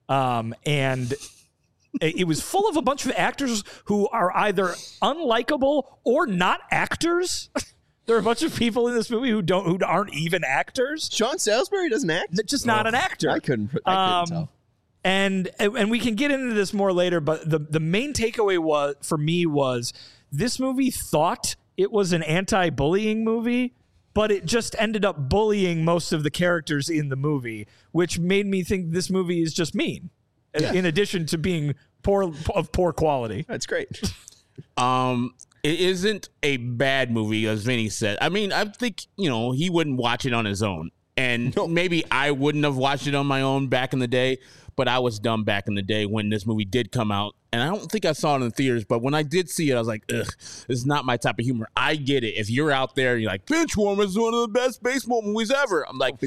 And it was full of a bunch of actors who are either unlikable or not actors. There are a bunch of people in this movie who aren't even actors. Sean Salisbury doesn't act? Just not an actor. I couldn't tell. And we can get into this more later, but the main takeaway was this movie thought it was an anti-bullying movie, but it just ended up bullying most of the characters in the movie, which made me think this movie is just mean, in addition to being of poor quality. That's great. It isn't a bad movie, as Vinny said. I mean, I think, he wouldn't watch it on his own. And maybe I wouldn't have watched it on my own back in the day, but I was dumb back in the day when this movie did come out. And I don't think I saw it in the theaters, but when I did see it, I was like, ugh, this is not my type of humor. I get it. If you're out there and you're like, Benchwarmers is one of the best baseball movies ever. I'm like,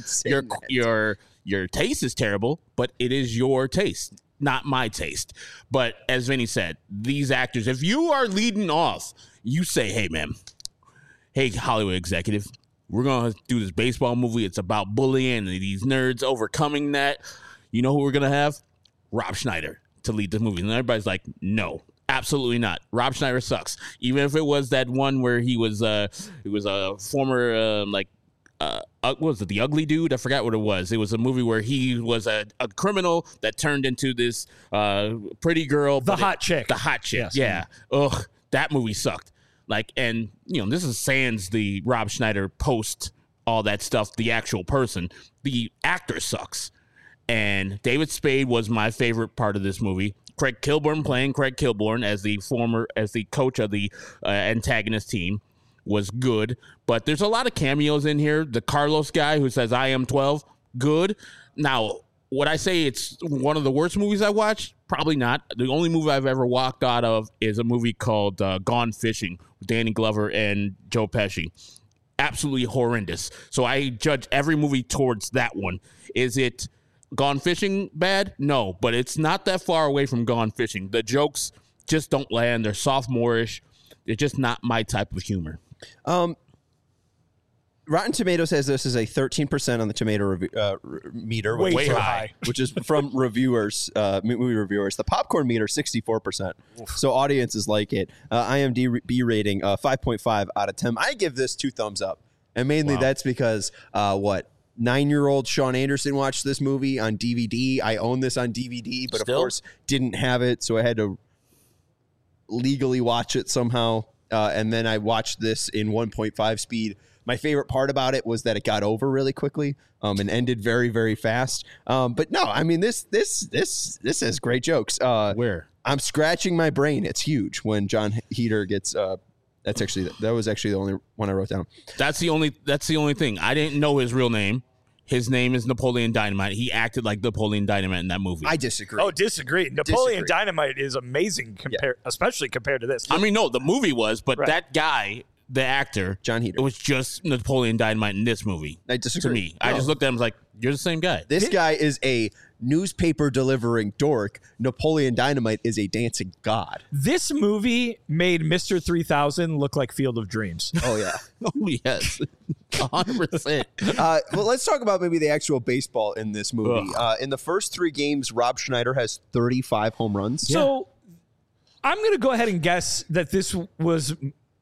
your taste is terrible, but it is your taste, not my taste. But as Vinny said, these actors, if you are leading off, you say, hey, man, hey, Hollywood executive, we're going to do this baseball movie. It's about bullying and these nerds overcoming that. You know who we're going to have? Rob Schneider to lead the movie. And everybody's like, no, absolutely not. Rob Schneider sucks. Even if it was that one where he was a former, what was it, The Ugly Dude? I forgot what it was. It was a movie where he was a criminal that turned into this pretty girl. The hot chick. The hot chick, Yes. yeah. Ugh, that movie sucked. And this is sans the Rob Schneider post, all that stuff, the actual person. The actor sucks. And David Spade was my favorite part of this movie. Craig Kilborn playing Craig Kilborn as the coach of the antagonist team was good. But there's a lot of cameos in here. The Carlos guy who says, I am 12, good. Now, would I say it's one of the worst movies I watched? Probably not. The only movie I've ever walked out of is a movie called Gone Fishing with Danny Glover and Joe Pesci. Absolutely horrendous. So I judge every movie towards that one. Is it Gone Fishing bad? No, but it's not that far away from Gone Fishing. The jokes just don't land. They're sophomorish. They're just not my type of humor. Rotten Tomatoes has this as a 13% on the tomato meter, Way too high. which is from reviewers, movie reviewers. The popcorn meter, 64%. So audiences like it. IMDb rating, 5.5 out of 10. I give this 2 thumbs up. And mainly that's because, 9-year-old Sean Anderson watched this movie on DVD. I own this on DVD, but of course didn't have it. So I had to legally watch it somehow. And then I watched this in 1.5 speed. My favorite part about it was that it got over really quickly and ended very, very fast. But no, I mean, this has great jokes. Where? I'm scratching my brain. It's huge when John Heder gets. That was actually the only one I wrote down. That's the only thing. I didn't know his real name. His name is Napoleon Dynamite. He acted like Napoleon Dynamite in that movie. I disagree. Oh, disagree. Napoleon Dynamite is amazing, especially compared to this. I mean, no, the movie was, but that guy, the actor, John Heder, it was just Napoleon Dynamite in this movie. I disagree. To me, I just looked at him and was like, "You're the same guy." This guy is a newspaper delivering dork. Napoleon Dynamite is a dancing god. This movie made Mr. 3000 look like Field of Dreams. Oh yeah. Oh yes, 100%. Well, let's talk about maybe the actual baseball in this movie. In the first 3 games, Rob Schneider has 35 home runs. So I'm going to go ahead and guess that this was.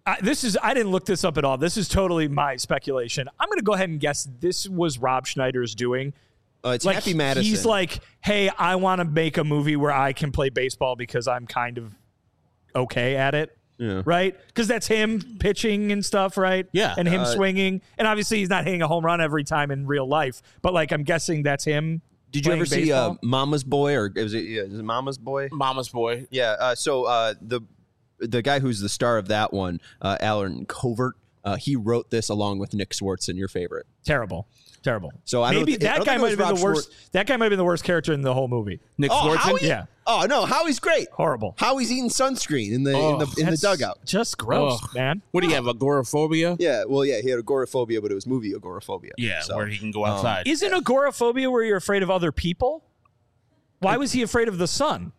I didn't look this up at all. This is totally my speculation. I'm going to go ahead and guess this was Rob Schneider's doing. It's like, Happy Madison. He's like, hey, I want to make a movie where I can play baseball because I'm kind of okay at it. Yeah. Right? Because that's him pitching and stuff, right? Yeah. And him swinging. And obviously he's not hitting a home run every time in real life. But like I'm guessing that's him. Did you ever baseball. see Mama's Boy or is it Mama's Boy? Mama's Boy. Yeah. So the guy who's the star of that one, Alan Covert, he wrote this along with Nick Swartzen, your favorite. Terrible. So maybe that guy might have been the worst. That guy might have been the worst character in the whole movie. Nick Swartzen. Howie? Yeah. Oh no, Howie's great. Horrible. Howie's eating sunscreen in the dugout. Just gross, man. What do you have? Agoraphobia? Yeah. Well, yeah, he had agoraphobia, but it was movie agoraphobia. Yeah, So, where he can go outside. Isn't agoraphobia where you're afraid of other people? Why was he afraid of the sun?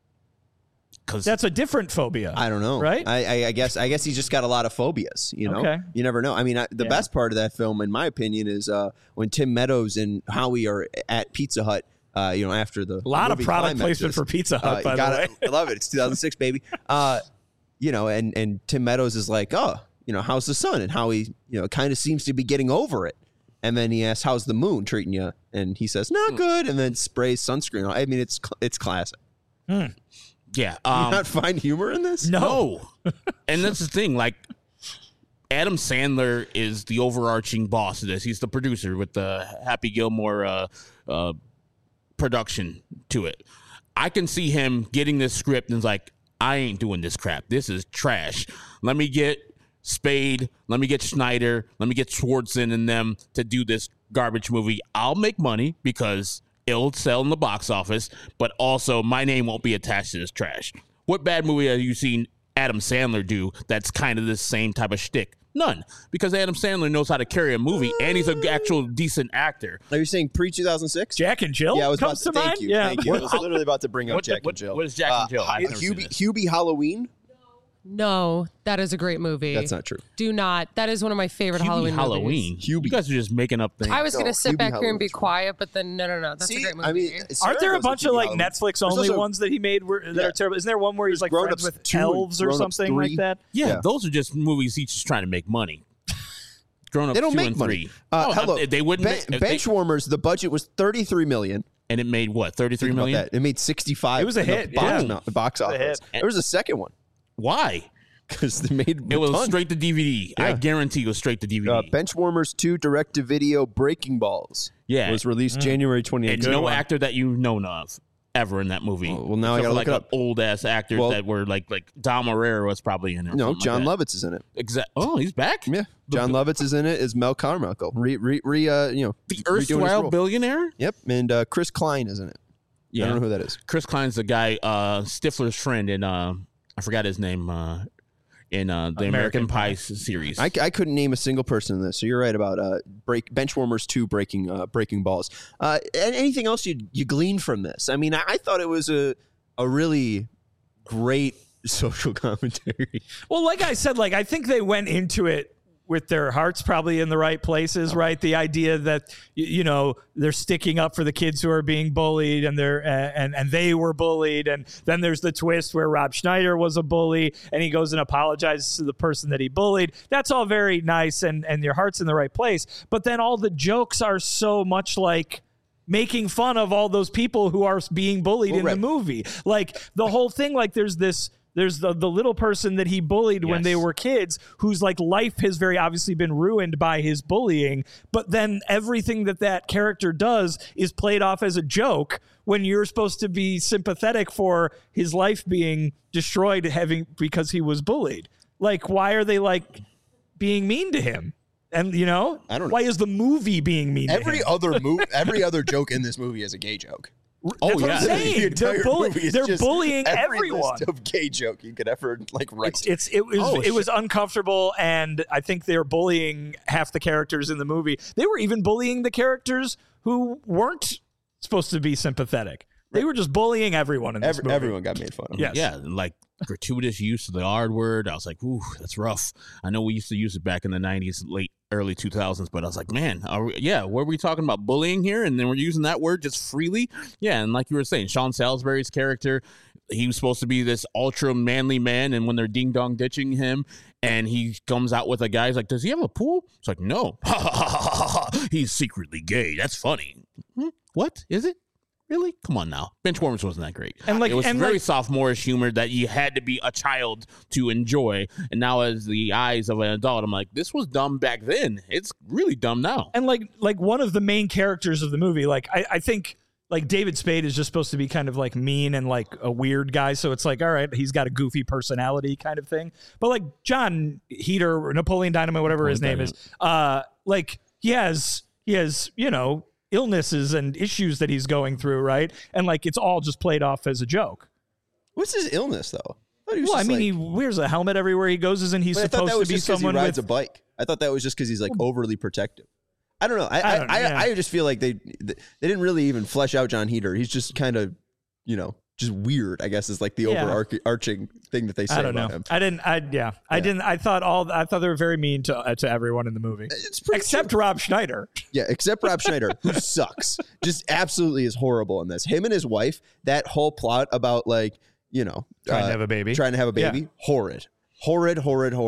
Because That's a different phobia. I don't know. Right? I guess he's just got a lot of phobias. You know. Okay. You never know. I mean, the best part of that film, in my opinion, is when Tim Meadows and Howie are at Pizza Hut. After the a lot of product placement for Pizza Hut, by the way. I love it. It's 2006, baby. And Tim Meadows is like, how's the sun? And Howie, kind of seems to be getting over it. And then he asks, how's the moon treating you? And he says, not good. And then sprays sunscreen. I mean, it's classic. yeah. Do you not find humor in this? No. And that's the thing. Like, Adam Sandler is the overarching boss of this. He's the producer with the Happy Gilmore production to it. I can see him getting this script and it's like, I ain't doing this crap. This is trash. Let me get Spade. Let me get Schneider. Let me get Swartzen and them to do this garbage movie. I'll make money because it'll sell in the box office, but also my name won't be attached to this trash. What bad movie have you seen Adam Sandler do that's kind of the same type of shtick? None, because Adam Sandler knows how to carry a movie, and he's an actual decent actor. Are you saying pre-2006? Jack and Jill Yeah, I was comes about to to mind. thank you. Thank you. I was literally about to bring up Jack and Jill. What is Jack and Jill? I've never seen this. Hubie Halloween? No, that is a great movie. That's not true. Do not. That is one of my favorite Halloween movies. You guys are just making up things. I was going to sit Hubie back here and be Halloween's quiet, but then no. That's a great movie. I mean, Aren't there a Sarah bunch goes of to like Halloween. Netflix There's only also- ones that he made that are terrible? Isn't there one where he's like Grown friends Ups with 2 and elves or Grown Ups something 3. like that? Yeah, those are just movies he's just trying to make money. Grown Ups They don't 2 make and money. 3. Hello, They wouldn't. if they- Benchwarmers. The budget was $33 million. and it made what? 33 Think about million. that. It made 65. It was a in the hit, Box, yeah. the box It was a office. hit. There was a second one Why? because they made It was a ton. straight to DVD. I guarantee it was straight to DVD. Benchwarmers 2 direct-to-video Breaking Balls. Yeah. was released January 2018. and no actor that you've known of ever in that movie. Oh, well, now I Except gotta for, look like it up. Old ass actors Well- that were like Dom Herrera was probably in it. or No, something John like that. Lovitz is in it. Oh, he's back. Yeah, John Lovitz is in it as Mel Carmichael. The redoing his erstwhile role. billionaire. Yep, and Chris Klein is in it. I don't know who that is. Chris Klein's the guy, Stifler's friend in I forgot his name in the American Pie series. I couldn't name a single person in this, so you're right about Benchwarmers 2 breaking balls. Anything else you gleaned from this? I mean, I thought it was a really great social commentary. Well, like I said, like I think they went into it with their hearts probably in the right places, right? The idea that, they're sticking up for the kids who are being bullied and and they were bullied. And then there's the twist where Rob Schneider was a bully and he goes and apologizes to the person that he bullied. That's all very nice and your heart's in the right place. But then all the jokes are so much like making fun of all those people who are being bullied in the movie. Like the whole thing, like there's the little person that he bullied when they were kids whose like life has very obviously been ruined by his bullying. But then everything that character does is played off as a joke when you're supposed to be sympathetic for his life being destroyed because he was bullied. Like, why are they like being mean to him? And I don't know. Why is the movie being mean to him? Every other joke in this movie is a gay joke. That's what I'm saying. They're bullying everyone. List of gay joke you could ever write. It was uncomfortable, and I think they're bullying half the characters in the movie. They were even bullying the characters who weren't supposed to be sympathetic. They were just bullying everyone in this movie. Everyone got made fun of. Yes. Yeah, like gratuitous use of the R word. I was like, ooh, that's rough. I know we used to use it back in the 90s, early 2000s, but I was like, man, were we talking about bullying here? And then we're using that word just freely? Yeah, and like you were saying, Sean Salisbury's character, he was supposed to be this ultra manly man, and when they're ding-dong ditching him, and he comes out with a guy, he's like, does he have a pool? It's like, no. He's secretly gay. That's funny. What? Is it? Really? Come on now. Benchwarmers wasn't that great. And it was very sophomorish humor that you had to be a child to enjoy. And now as the eyes of an adult, I'm like, this was dumb back then. It's really dumb now. And like one of the main characters of the movie, like I think like David Spade is just supposed to be kind of like mean and like a weird guy. So it's like, all right, he's got a goofy personality kind of thing. But like John Heater or Napoleon Dynamite, whatever his name is, like he has, illnesses and issues that he's going through, right? And like it's all just played off as a joke. What's his illness though? He wears a helmet everywhere he goes, isn't he supposed to be someone he rides a bike? I thought that was just because he's like overly protective. I don't know. I just feel like they didn't really even flesh out John Heater. He's just kind of, just weird, I guess, is like the overarching thing that they say about him. I thought they were very mean to everyone in the movie. Except Rob Schneider. Yeah, except Rob Schneider, who sucks. Just absolutely is horrible in this. Him and his wife, that whole plot about trying to have a baby. Yeah. Horrid,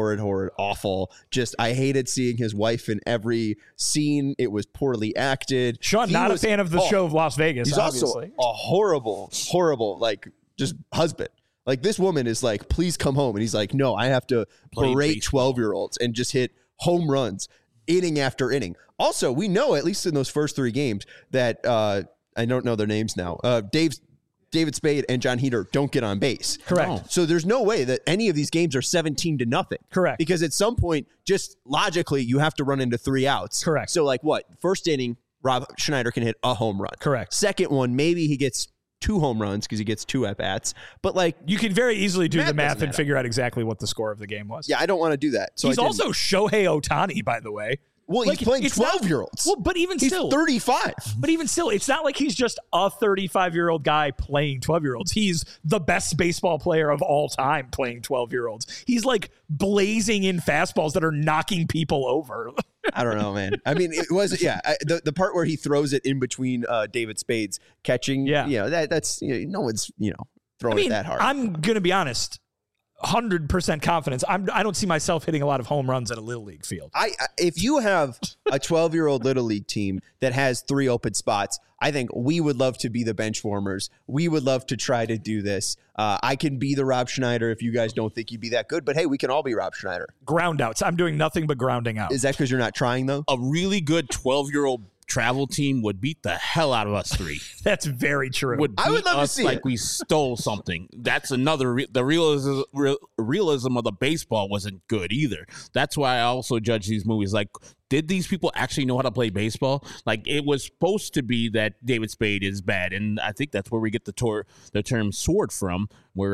awful. Just, I hated seeing his wife in every scene. It was poorly acted. Sean, not a fan of the show of Las Vegas, he's obviously. Also a horrible, like, just husband. Like, this woman is like, please come home. And he's like, no, I have to berate 12-year-olds and just hit home runs inning after inning. Also, we know, at least in those first 3 games, that I don't know their names now. David Spade and John Heater don't get on base. Correct. No. So there's no way that any of these games are 17-0. Correct. Because at some point, just logically, you have to run into 3 outs. Correct. So like what? First inning, Rob Schneider can hit a home run. Correct. Second one, maybe he gets 2 home runs because he gets 2 at-bats. But like, you can very easily do the math and figure out exactly what the score of the game was. Yeah, I don't want to do that. So he's also Shohei Ohtani, by the way. Well, he's playing 12-year-olds. Well, but even still. He's 35. But even still, it's not like he's just a 35-year-old guy playing 12-year-olds. He's the best baseball player of all time playing 12-year-olds. He's like blazing in fastballs that are knocking people over. I don't know, man. I mean, it was, the part where he throws it in between David Spade's catching, that's, no one's, throwing it that hard. I'm going to be honest. 100% confidence. I don't see myself hitting a lot of home runs at a Little League field. If you have a 12-year-old Little League team that has 3 open spots, I think we would love to be the bench warmers. We would love to try to do this. I can be the Rob Schneider if you guys don't think you'd be that good, but hey, we can all be Rob Schneider. Ground outs. I'm doing nothing but grounding out. Is that because you're not trying, though? A really good 12-year-old travel team would beat the hell out of us 3. That's very true. I would love to see like we stole something. That's another. The realism of the baseball wasn't good either. That's why I also judge these movies. Like, did these people actually know how to play baseball? Like, it was supposed to be that David Spade is bad, and I think that's where we get the term sword from, where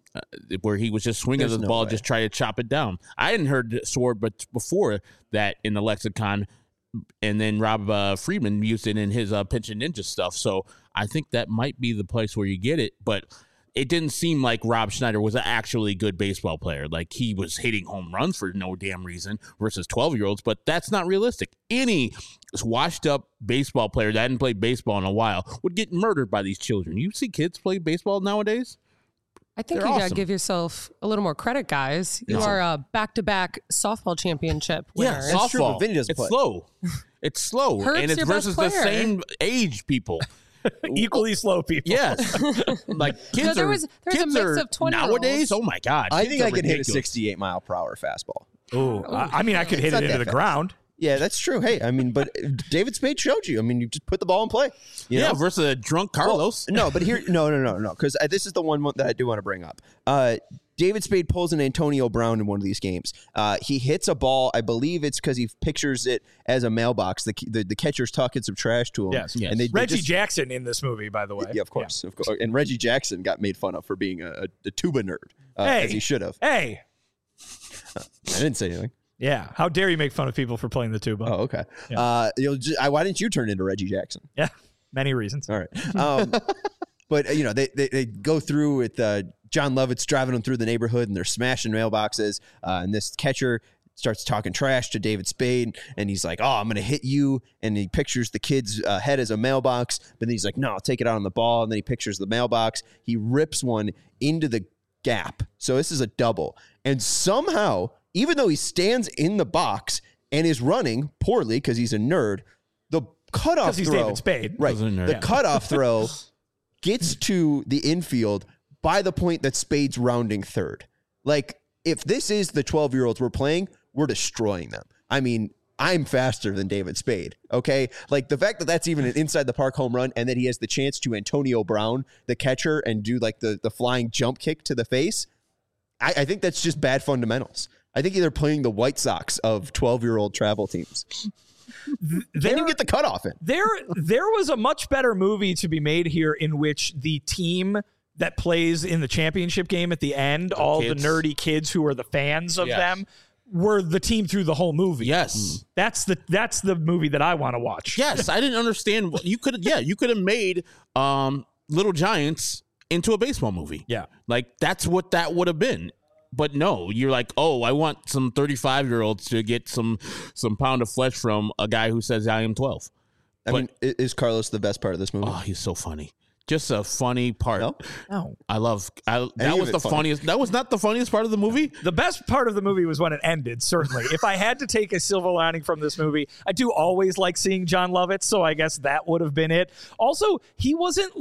he was just swinging the ball, just try to chop it down. I hadn't heard sword, but before that in the lexicon. And then Rob Friedman used it in his Pitch and Ninja stuff. So I think that might be the place where you get it. But it didn't seem like Rob Schneider was an actually good baseball player. Like he was hitting home runs for no damn reason versus 12-year-olds, but that's not realistic. Any washed up baseball player that hadn't played baseball in a while would get murdered by these children. You see kids play baseball nowadays? I think They're you got to awesome. give yourself a little more credit, guys. You are a back-to-back softball championship winner. Yeah, That's true, softball. but Vinny doesn't It's play. slow. It's slow, Herb's and it's your best versus the player. same age people. Equally slow people. Yes, like kids there are. was a kids mix are of 20-year-olds. nowadays. Oh my god! I kids think are I could hit a ridiculous. 68 mile per hour fastball. Ooh, I mean, I could hit It's it not into that the fast. ground. Yeah, that's true. Hey, I mean, but David Spade showed you. I mean, you just put the ball in play. You Yeah, know? versus a drunk Carlos. No, but here, no, because this is the one that I do want to bring up. David Spade pulls an Antonio Brown in one of these games. He hits a ball. I believe it's because he pictures it as a mailbox. The catcher's talking some trash to him. Yes. And they Reggie just, Jackson in this movie, by the way. Yeah, of course. And Reggie Jackson got made fun of for being a tuba nerd, Hey. as he should have. Hey. I didn't say anything. Yeah. How dare you make fun of people for playing the tuba? Oh, okay. Yeah. Why didn't you turn into Reggie Jackson? Yeah. Many reasons. All right. But, they go through with John Lovitz driving them through the neighborhood, and they're smashing mailboxes. And this catcher starts talking trash to David Spade, and he's like, oh, I'm going to hit you. And he pictures the kid's head as a mailbox. But then he's like, no, I'll take it out on the ball. And then he pictures the mailbox. He rips one into the gap. So this is a double. And somehow, even though he stands in the box and is running poorly because he's a nerd, the cutoff 'Cause he's throw, David Spade. right? He's a nerd. The Yeah. cutoff throw gets to the infield by the point that Spade's rounding third. Like, if this is the 12-year-olds we're playing, we're destroying them. I mean, I'm faster than David Spade, okay? Like, the fact that that's even an inside-the-park home run and that he has the chance to Antonio Brown, the catcher, and do, like, the flying jump kick to the face, I think that's just bad fundamentals. I think they're playing the White Sox of 12-year-old travel teams. They didn't get the cutoff in. There was a much better movie to be made here in which the team that plays in the championship game at the end, all kids. the nerdy kids who are the fans of Yes. them, were the team through the whole movie. Yes. That's the movie that I want to watch. Yes, I didn't understand. You could have made Little Giants into a baseball movie. Yeah. Like that's what that would have been. But no, you're like, oh, I want some 35-year-olds to get some pound of flesh from a guy who says I am 12. I mean, is Carlos the best part of this movie? Oh, he's so funny. Just a funny part. No? No. That was of the it funny. funniest. That was not the funniest part of the movie. The best part of the movie was when it ended, certainly. If I had to take a silver lining from this movie, I do always like seeing John Lovitz, so I guess that would have been it. Also, he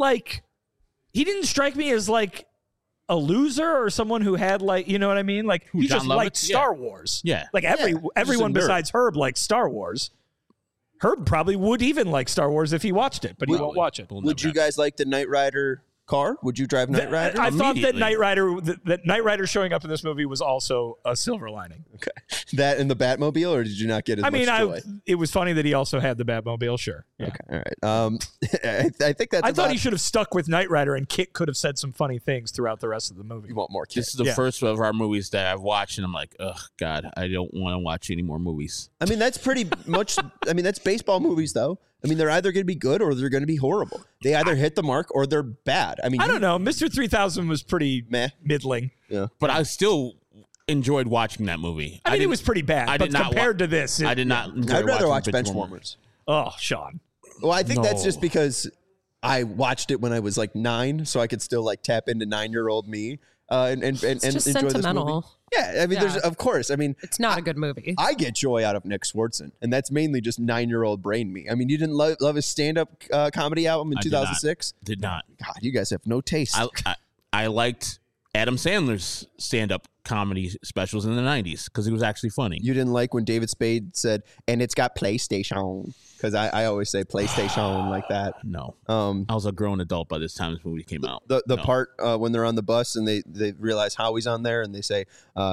didn't strike me as like a loser or someone who had like, you know what I mean? Like he John just liked Lovitz? Star Wars. Yeah. Like everyone nerd. besides Herb likes Star Wars. Herb probably would even like Star Wars if he watched it, but he won't watch it. Would you guys like the Knight Rider car? Would you drive Knight Rider? I thought that Immediately. Knight Rider showing up in this movie was also a silver lining. Okay. That in the Batmobile, or did you not get as I mean, much joy? it was funny that he also had the Batmobile. Sure. Yeah. Okay, all right. I think that's I thought about- he should have stuck with Knight Rider, and Kit could have said some funny things throughout the rest of the movie. You want more This kids. is the Yeah. first of our movies that I've watched, and I'm like, oh God, I don't want to watch any more movies. I mean, that's pretty much. I mean, that's baseball movies, though. I mean, they're either going to be good or they're going to be horrible. They either hit the mark or they're bad. I mean, I don't know. Mr. 3000 was pretty Meh. middling. But I still enjoyed watching that movie. I mean, it didn't- was pretty bad, I but did not compared to this, I did not. Enjoy I'd rather watch watching Benchwarmers. Oh, Sean. Well, I think that's No. just because I watched it when I was like 9, so I could still like tap into 9-year-old me and It's just enjoy this movie. sentimental. Yeah, I mean, there's Yeah. of course. I mean, It's not a good movie. I get joy out of Nick Swartzen, and that's mainly just 9-year-old brain me. I mean, you didn't love his stand-up comedy album in I did not. 2006? Did not. God, you guys have no taste. I liked Adam Sandler's stand-up comedy specials in the 90s because he was actually funny. You didn't like when David Spade said, and it's got PlayStation, because I always say PlayStation like that. No. Um, I was a grown adult by this time this movie came out. the No. part when they're on the bus and they realize Howie's on there and they say,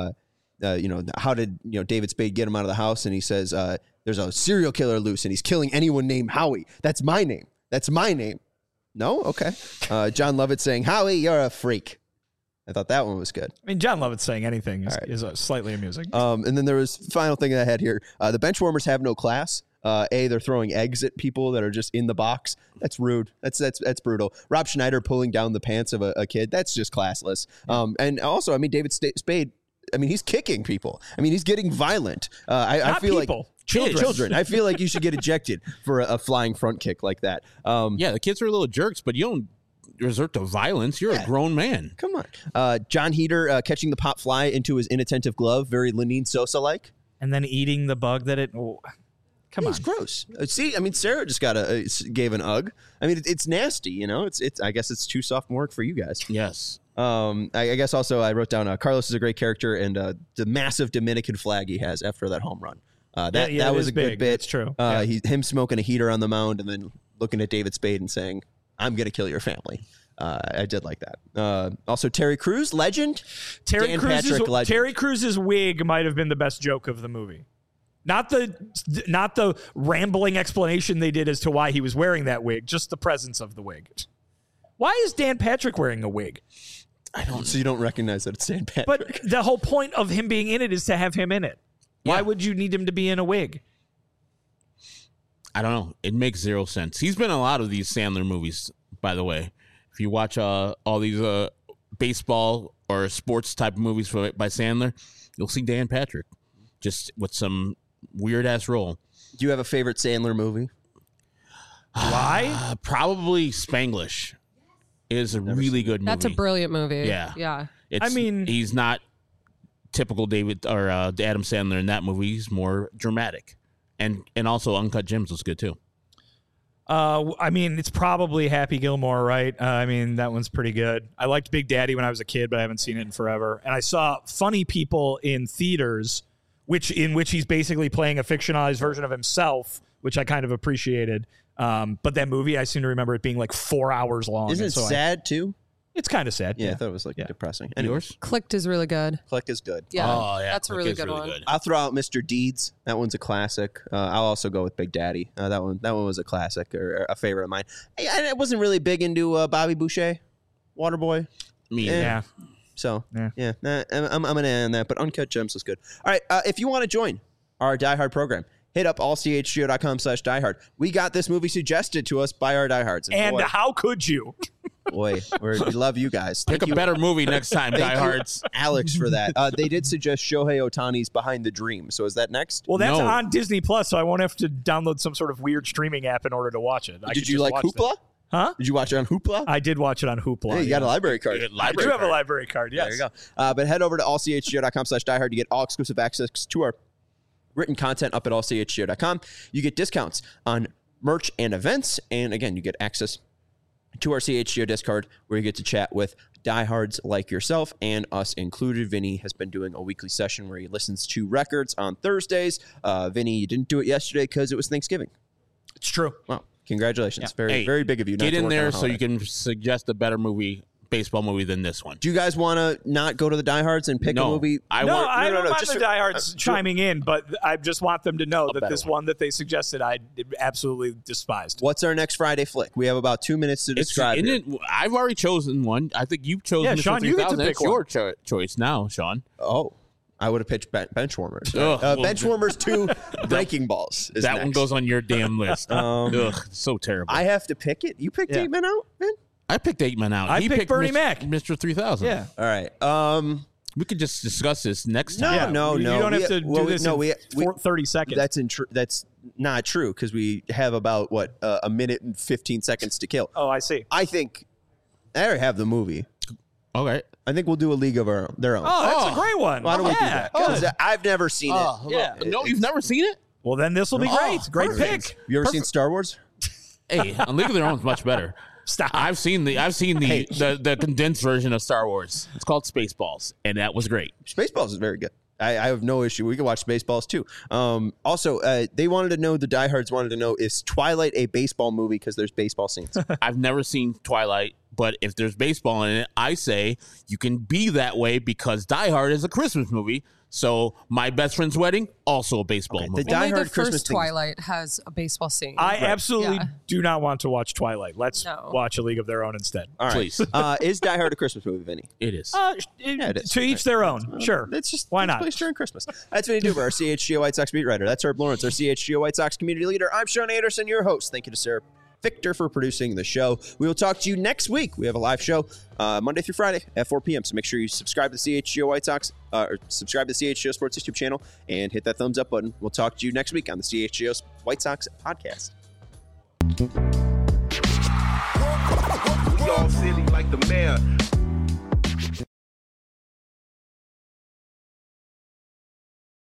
how did David Spade get him out of the house? And he says, there's a serial killer loose and he's killing anyone named Howie. That's my name. That's my name. No? Okay. John Lovitz saying, Howie, you're a freak. I thought that one was good. I mean, John Lovitz saying anything All right. is slightly amusing. And then there was final thing I had here. The Benchwarmers have no class. They're throwing eggs at people that are just in the box. That's rude. That's brutal. Rob Schneider pulling down the pants of a kid. That's just classless. And also, I mean, David Spade, I mean, he's kicking people. I mean, he's getting violent. I feel people. like Children. I feel like you should get ejected for a flying front kick like that. Yeah, the kids are little jerks, but you don't resort to violence. You're a grown man. Come on. John Heater catching the pop fly into his inattentive glove, very Lenine Sosa-like. And then eating the bug that it. Oh, come on. It's gross. See, I mean, Sarah just gave an ugh. I mean, it's nasty, you know. It's. I guess it's too soft work for you guys. Yes. I guess also I wrote down Carlos is a great character and the massive Dominican flag he has after that home run. That was a good bit. It's true. Him smoking a heater on the mound and then looking at David Spade and saying, "I'm going to kill your family." I did like that. Also, Terry Crews, legend. Terry legend. Crews's wig might have been the best joke of the movie. Not the rambling explanation they did as to why he was wearing that wig, just the presence of the wig. Why is Dan Patrick wearing a wig? So you don't recognize that it's Dan Patrick. But the whole point of him being in it is to have him in it. Why would you need him to be in a wig? I don't know. It makes zero sense. He's been in a lot of these Sandler movies, by the way. If you watch all these baseball or sports type of movies by Sandler, you'll see Dan Patrick just with some weird ass role. Do you have a favorite Sandler movie? Why? Probably Spanglish. It is a really good movie. That's a brilliant movie. Yeah. Yeah. He's not typical David or Adam Sandler in that movie. He's more dramatic. And also Uncut Gems was good too. I mean, it's probably Happy Gilmore, right? I mean, that one's pretty good. I liked Big Daddy when I was a kid, but I haven't seen it in forever. And I saw Funny People in theaters, in which he's basically playing a fictionalized version of himself, which I kind of appreciated. But that movie, I seem to remember it being like 4 hours long. Isn't it sad too? It's kind of sad. Yeah, I thought it was depressing. Yours? Clicked is really good. Click is good. Yeah. Oh, yeah. That's a really good one. I'll throw out Mr. Deeds. That one's a classic. I'll also go with Big Daddy. That one was a classic or a favorite of mine. I wasn't really big into Bobby Boucher, Waterboy. Me, yeah. So yeah, I'm gonna end that. But Uncut Gems was good. All right, if you want to join our Die Hard program, hit up allchgo.com/diehard. We got this movie suggested to us by our diehards. And how could you? Boy, we love you guys. Pick a better movie next time, diehards. Alex, for that. They did suggest Shohei Ohtani's Behind the Dream. So is that next? Well, that's on Disney Plus, so I won't have to download some sort of weird streaming app in order to watch it. Did you like Hoopla? Huh? Did you watch it on Hoopla? I did watch it on Hoopla. Yeah, you got a library card. I do have a library card, yes. There you go. But head over to allchgo.com/diehard to get all exclusive access to our written content up at allchgo.com. You get discounts on merch and events. And again, you get access to our CHGO Discord where you get to chat with diehards like yourself and us included. Vinny has been doing a weekly session where he listens to records on Thursdays. Vinny, you didn't do it yesterday because it was Thanksgiving. It's true. Wow. Congratulations. Yeah. Very big of you. Get in there so you can suggest a better baseball movie than this one. Do you guys want to not go to the diehards and pick a movie? I don't mind the diehards chiming in, but I just want them to know that this one that they suggested I absolutely despised. What's our next Friday flick? We have about 2 minutes to describe it. I've already chosen one. I think you've chosen. Yeah, Sean, you get to pick It's your choice now, Sean. Oh. I would have pitched Benchwarmers. Benchwarmers 2 Breaking Balls. That one goes on your damn list. Ugh, so terrible. I have to pick it. You picked 8 Men Out, man? I picked 8 Men Out. He picked Bernie Mac. Mr. 3000. Yeah. All right. We could just discuss this next time. No. You don't have to do this in 30 seconds. That's not true because we have about, a minute and 15 seconds to kill. Oh, I see. I think I already have the movie. Okay. I think we'll do a League of their own. Oh, that's a great one. Why don't we do that? Because I've never seen it. Yeah. No, you've never seen it? Well, then this will be great. Great pick. You ever seen Star Wars? Hey, A League of Their Own is much better. Stop. I've seen the condensed version of Star Wars. It's called Spaceballs, and that was great. Spaceballs is very good. I have no issue. We can watch Spaceballs too. Also, they wanted to know, the diehards wanted to know, is Twilight a baseball movie because there's baseball scenes? I've never seen Twilight, but if there's baseball in it, I say you can be that way because Die Hard is a Christmas movie. So My Best Friend's Wedding, also a baseball Okay, movie. the Only Die Hard the Christmas first thing. Twilight has a baseball scene. I absolutely Yeah. do not want to watch Twilight. Let's No. watch A League of Their Own instead. All right. Please. Is Die Hard a Christmas movie, Vinny? It is. it is. To each their own. Sure. It's just Why it's not? placed during Christmas. That's Vinny Duber, our CHGO White Sox beat writer. That's Herb Lawrence, our CHGO White Sox community leader. I'm Sean Anderson, your host. Thank you to Sarah Victor for producing the show. We will talk to you next week. We have a live show Monday through Friday at 4 p.m. So make sure you subscribe to the CHGO White Sox, or subscribe to the CHGO Sports YouTube channel, and hit that thumbs up button. We'll talk to you next week on the CHGO White Sox podcast. We all silly like the mayor.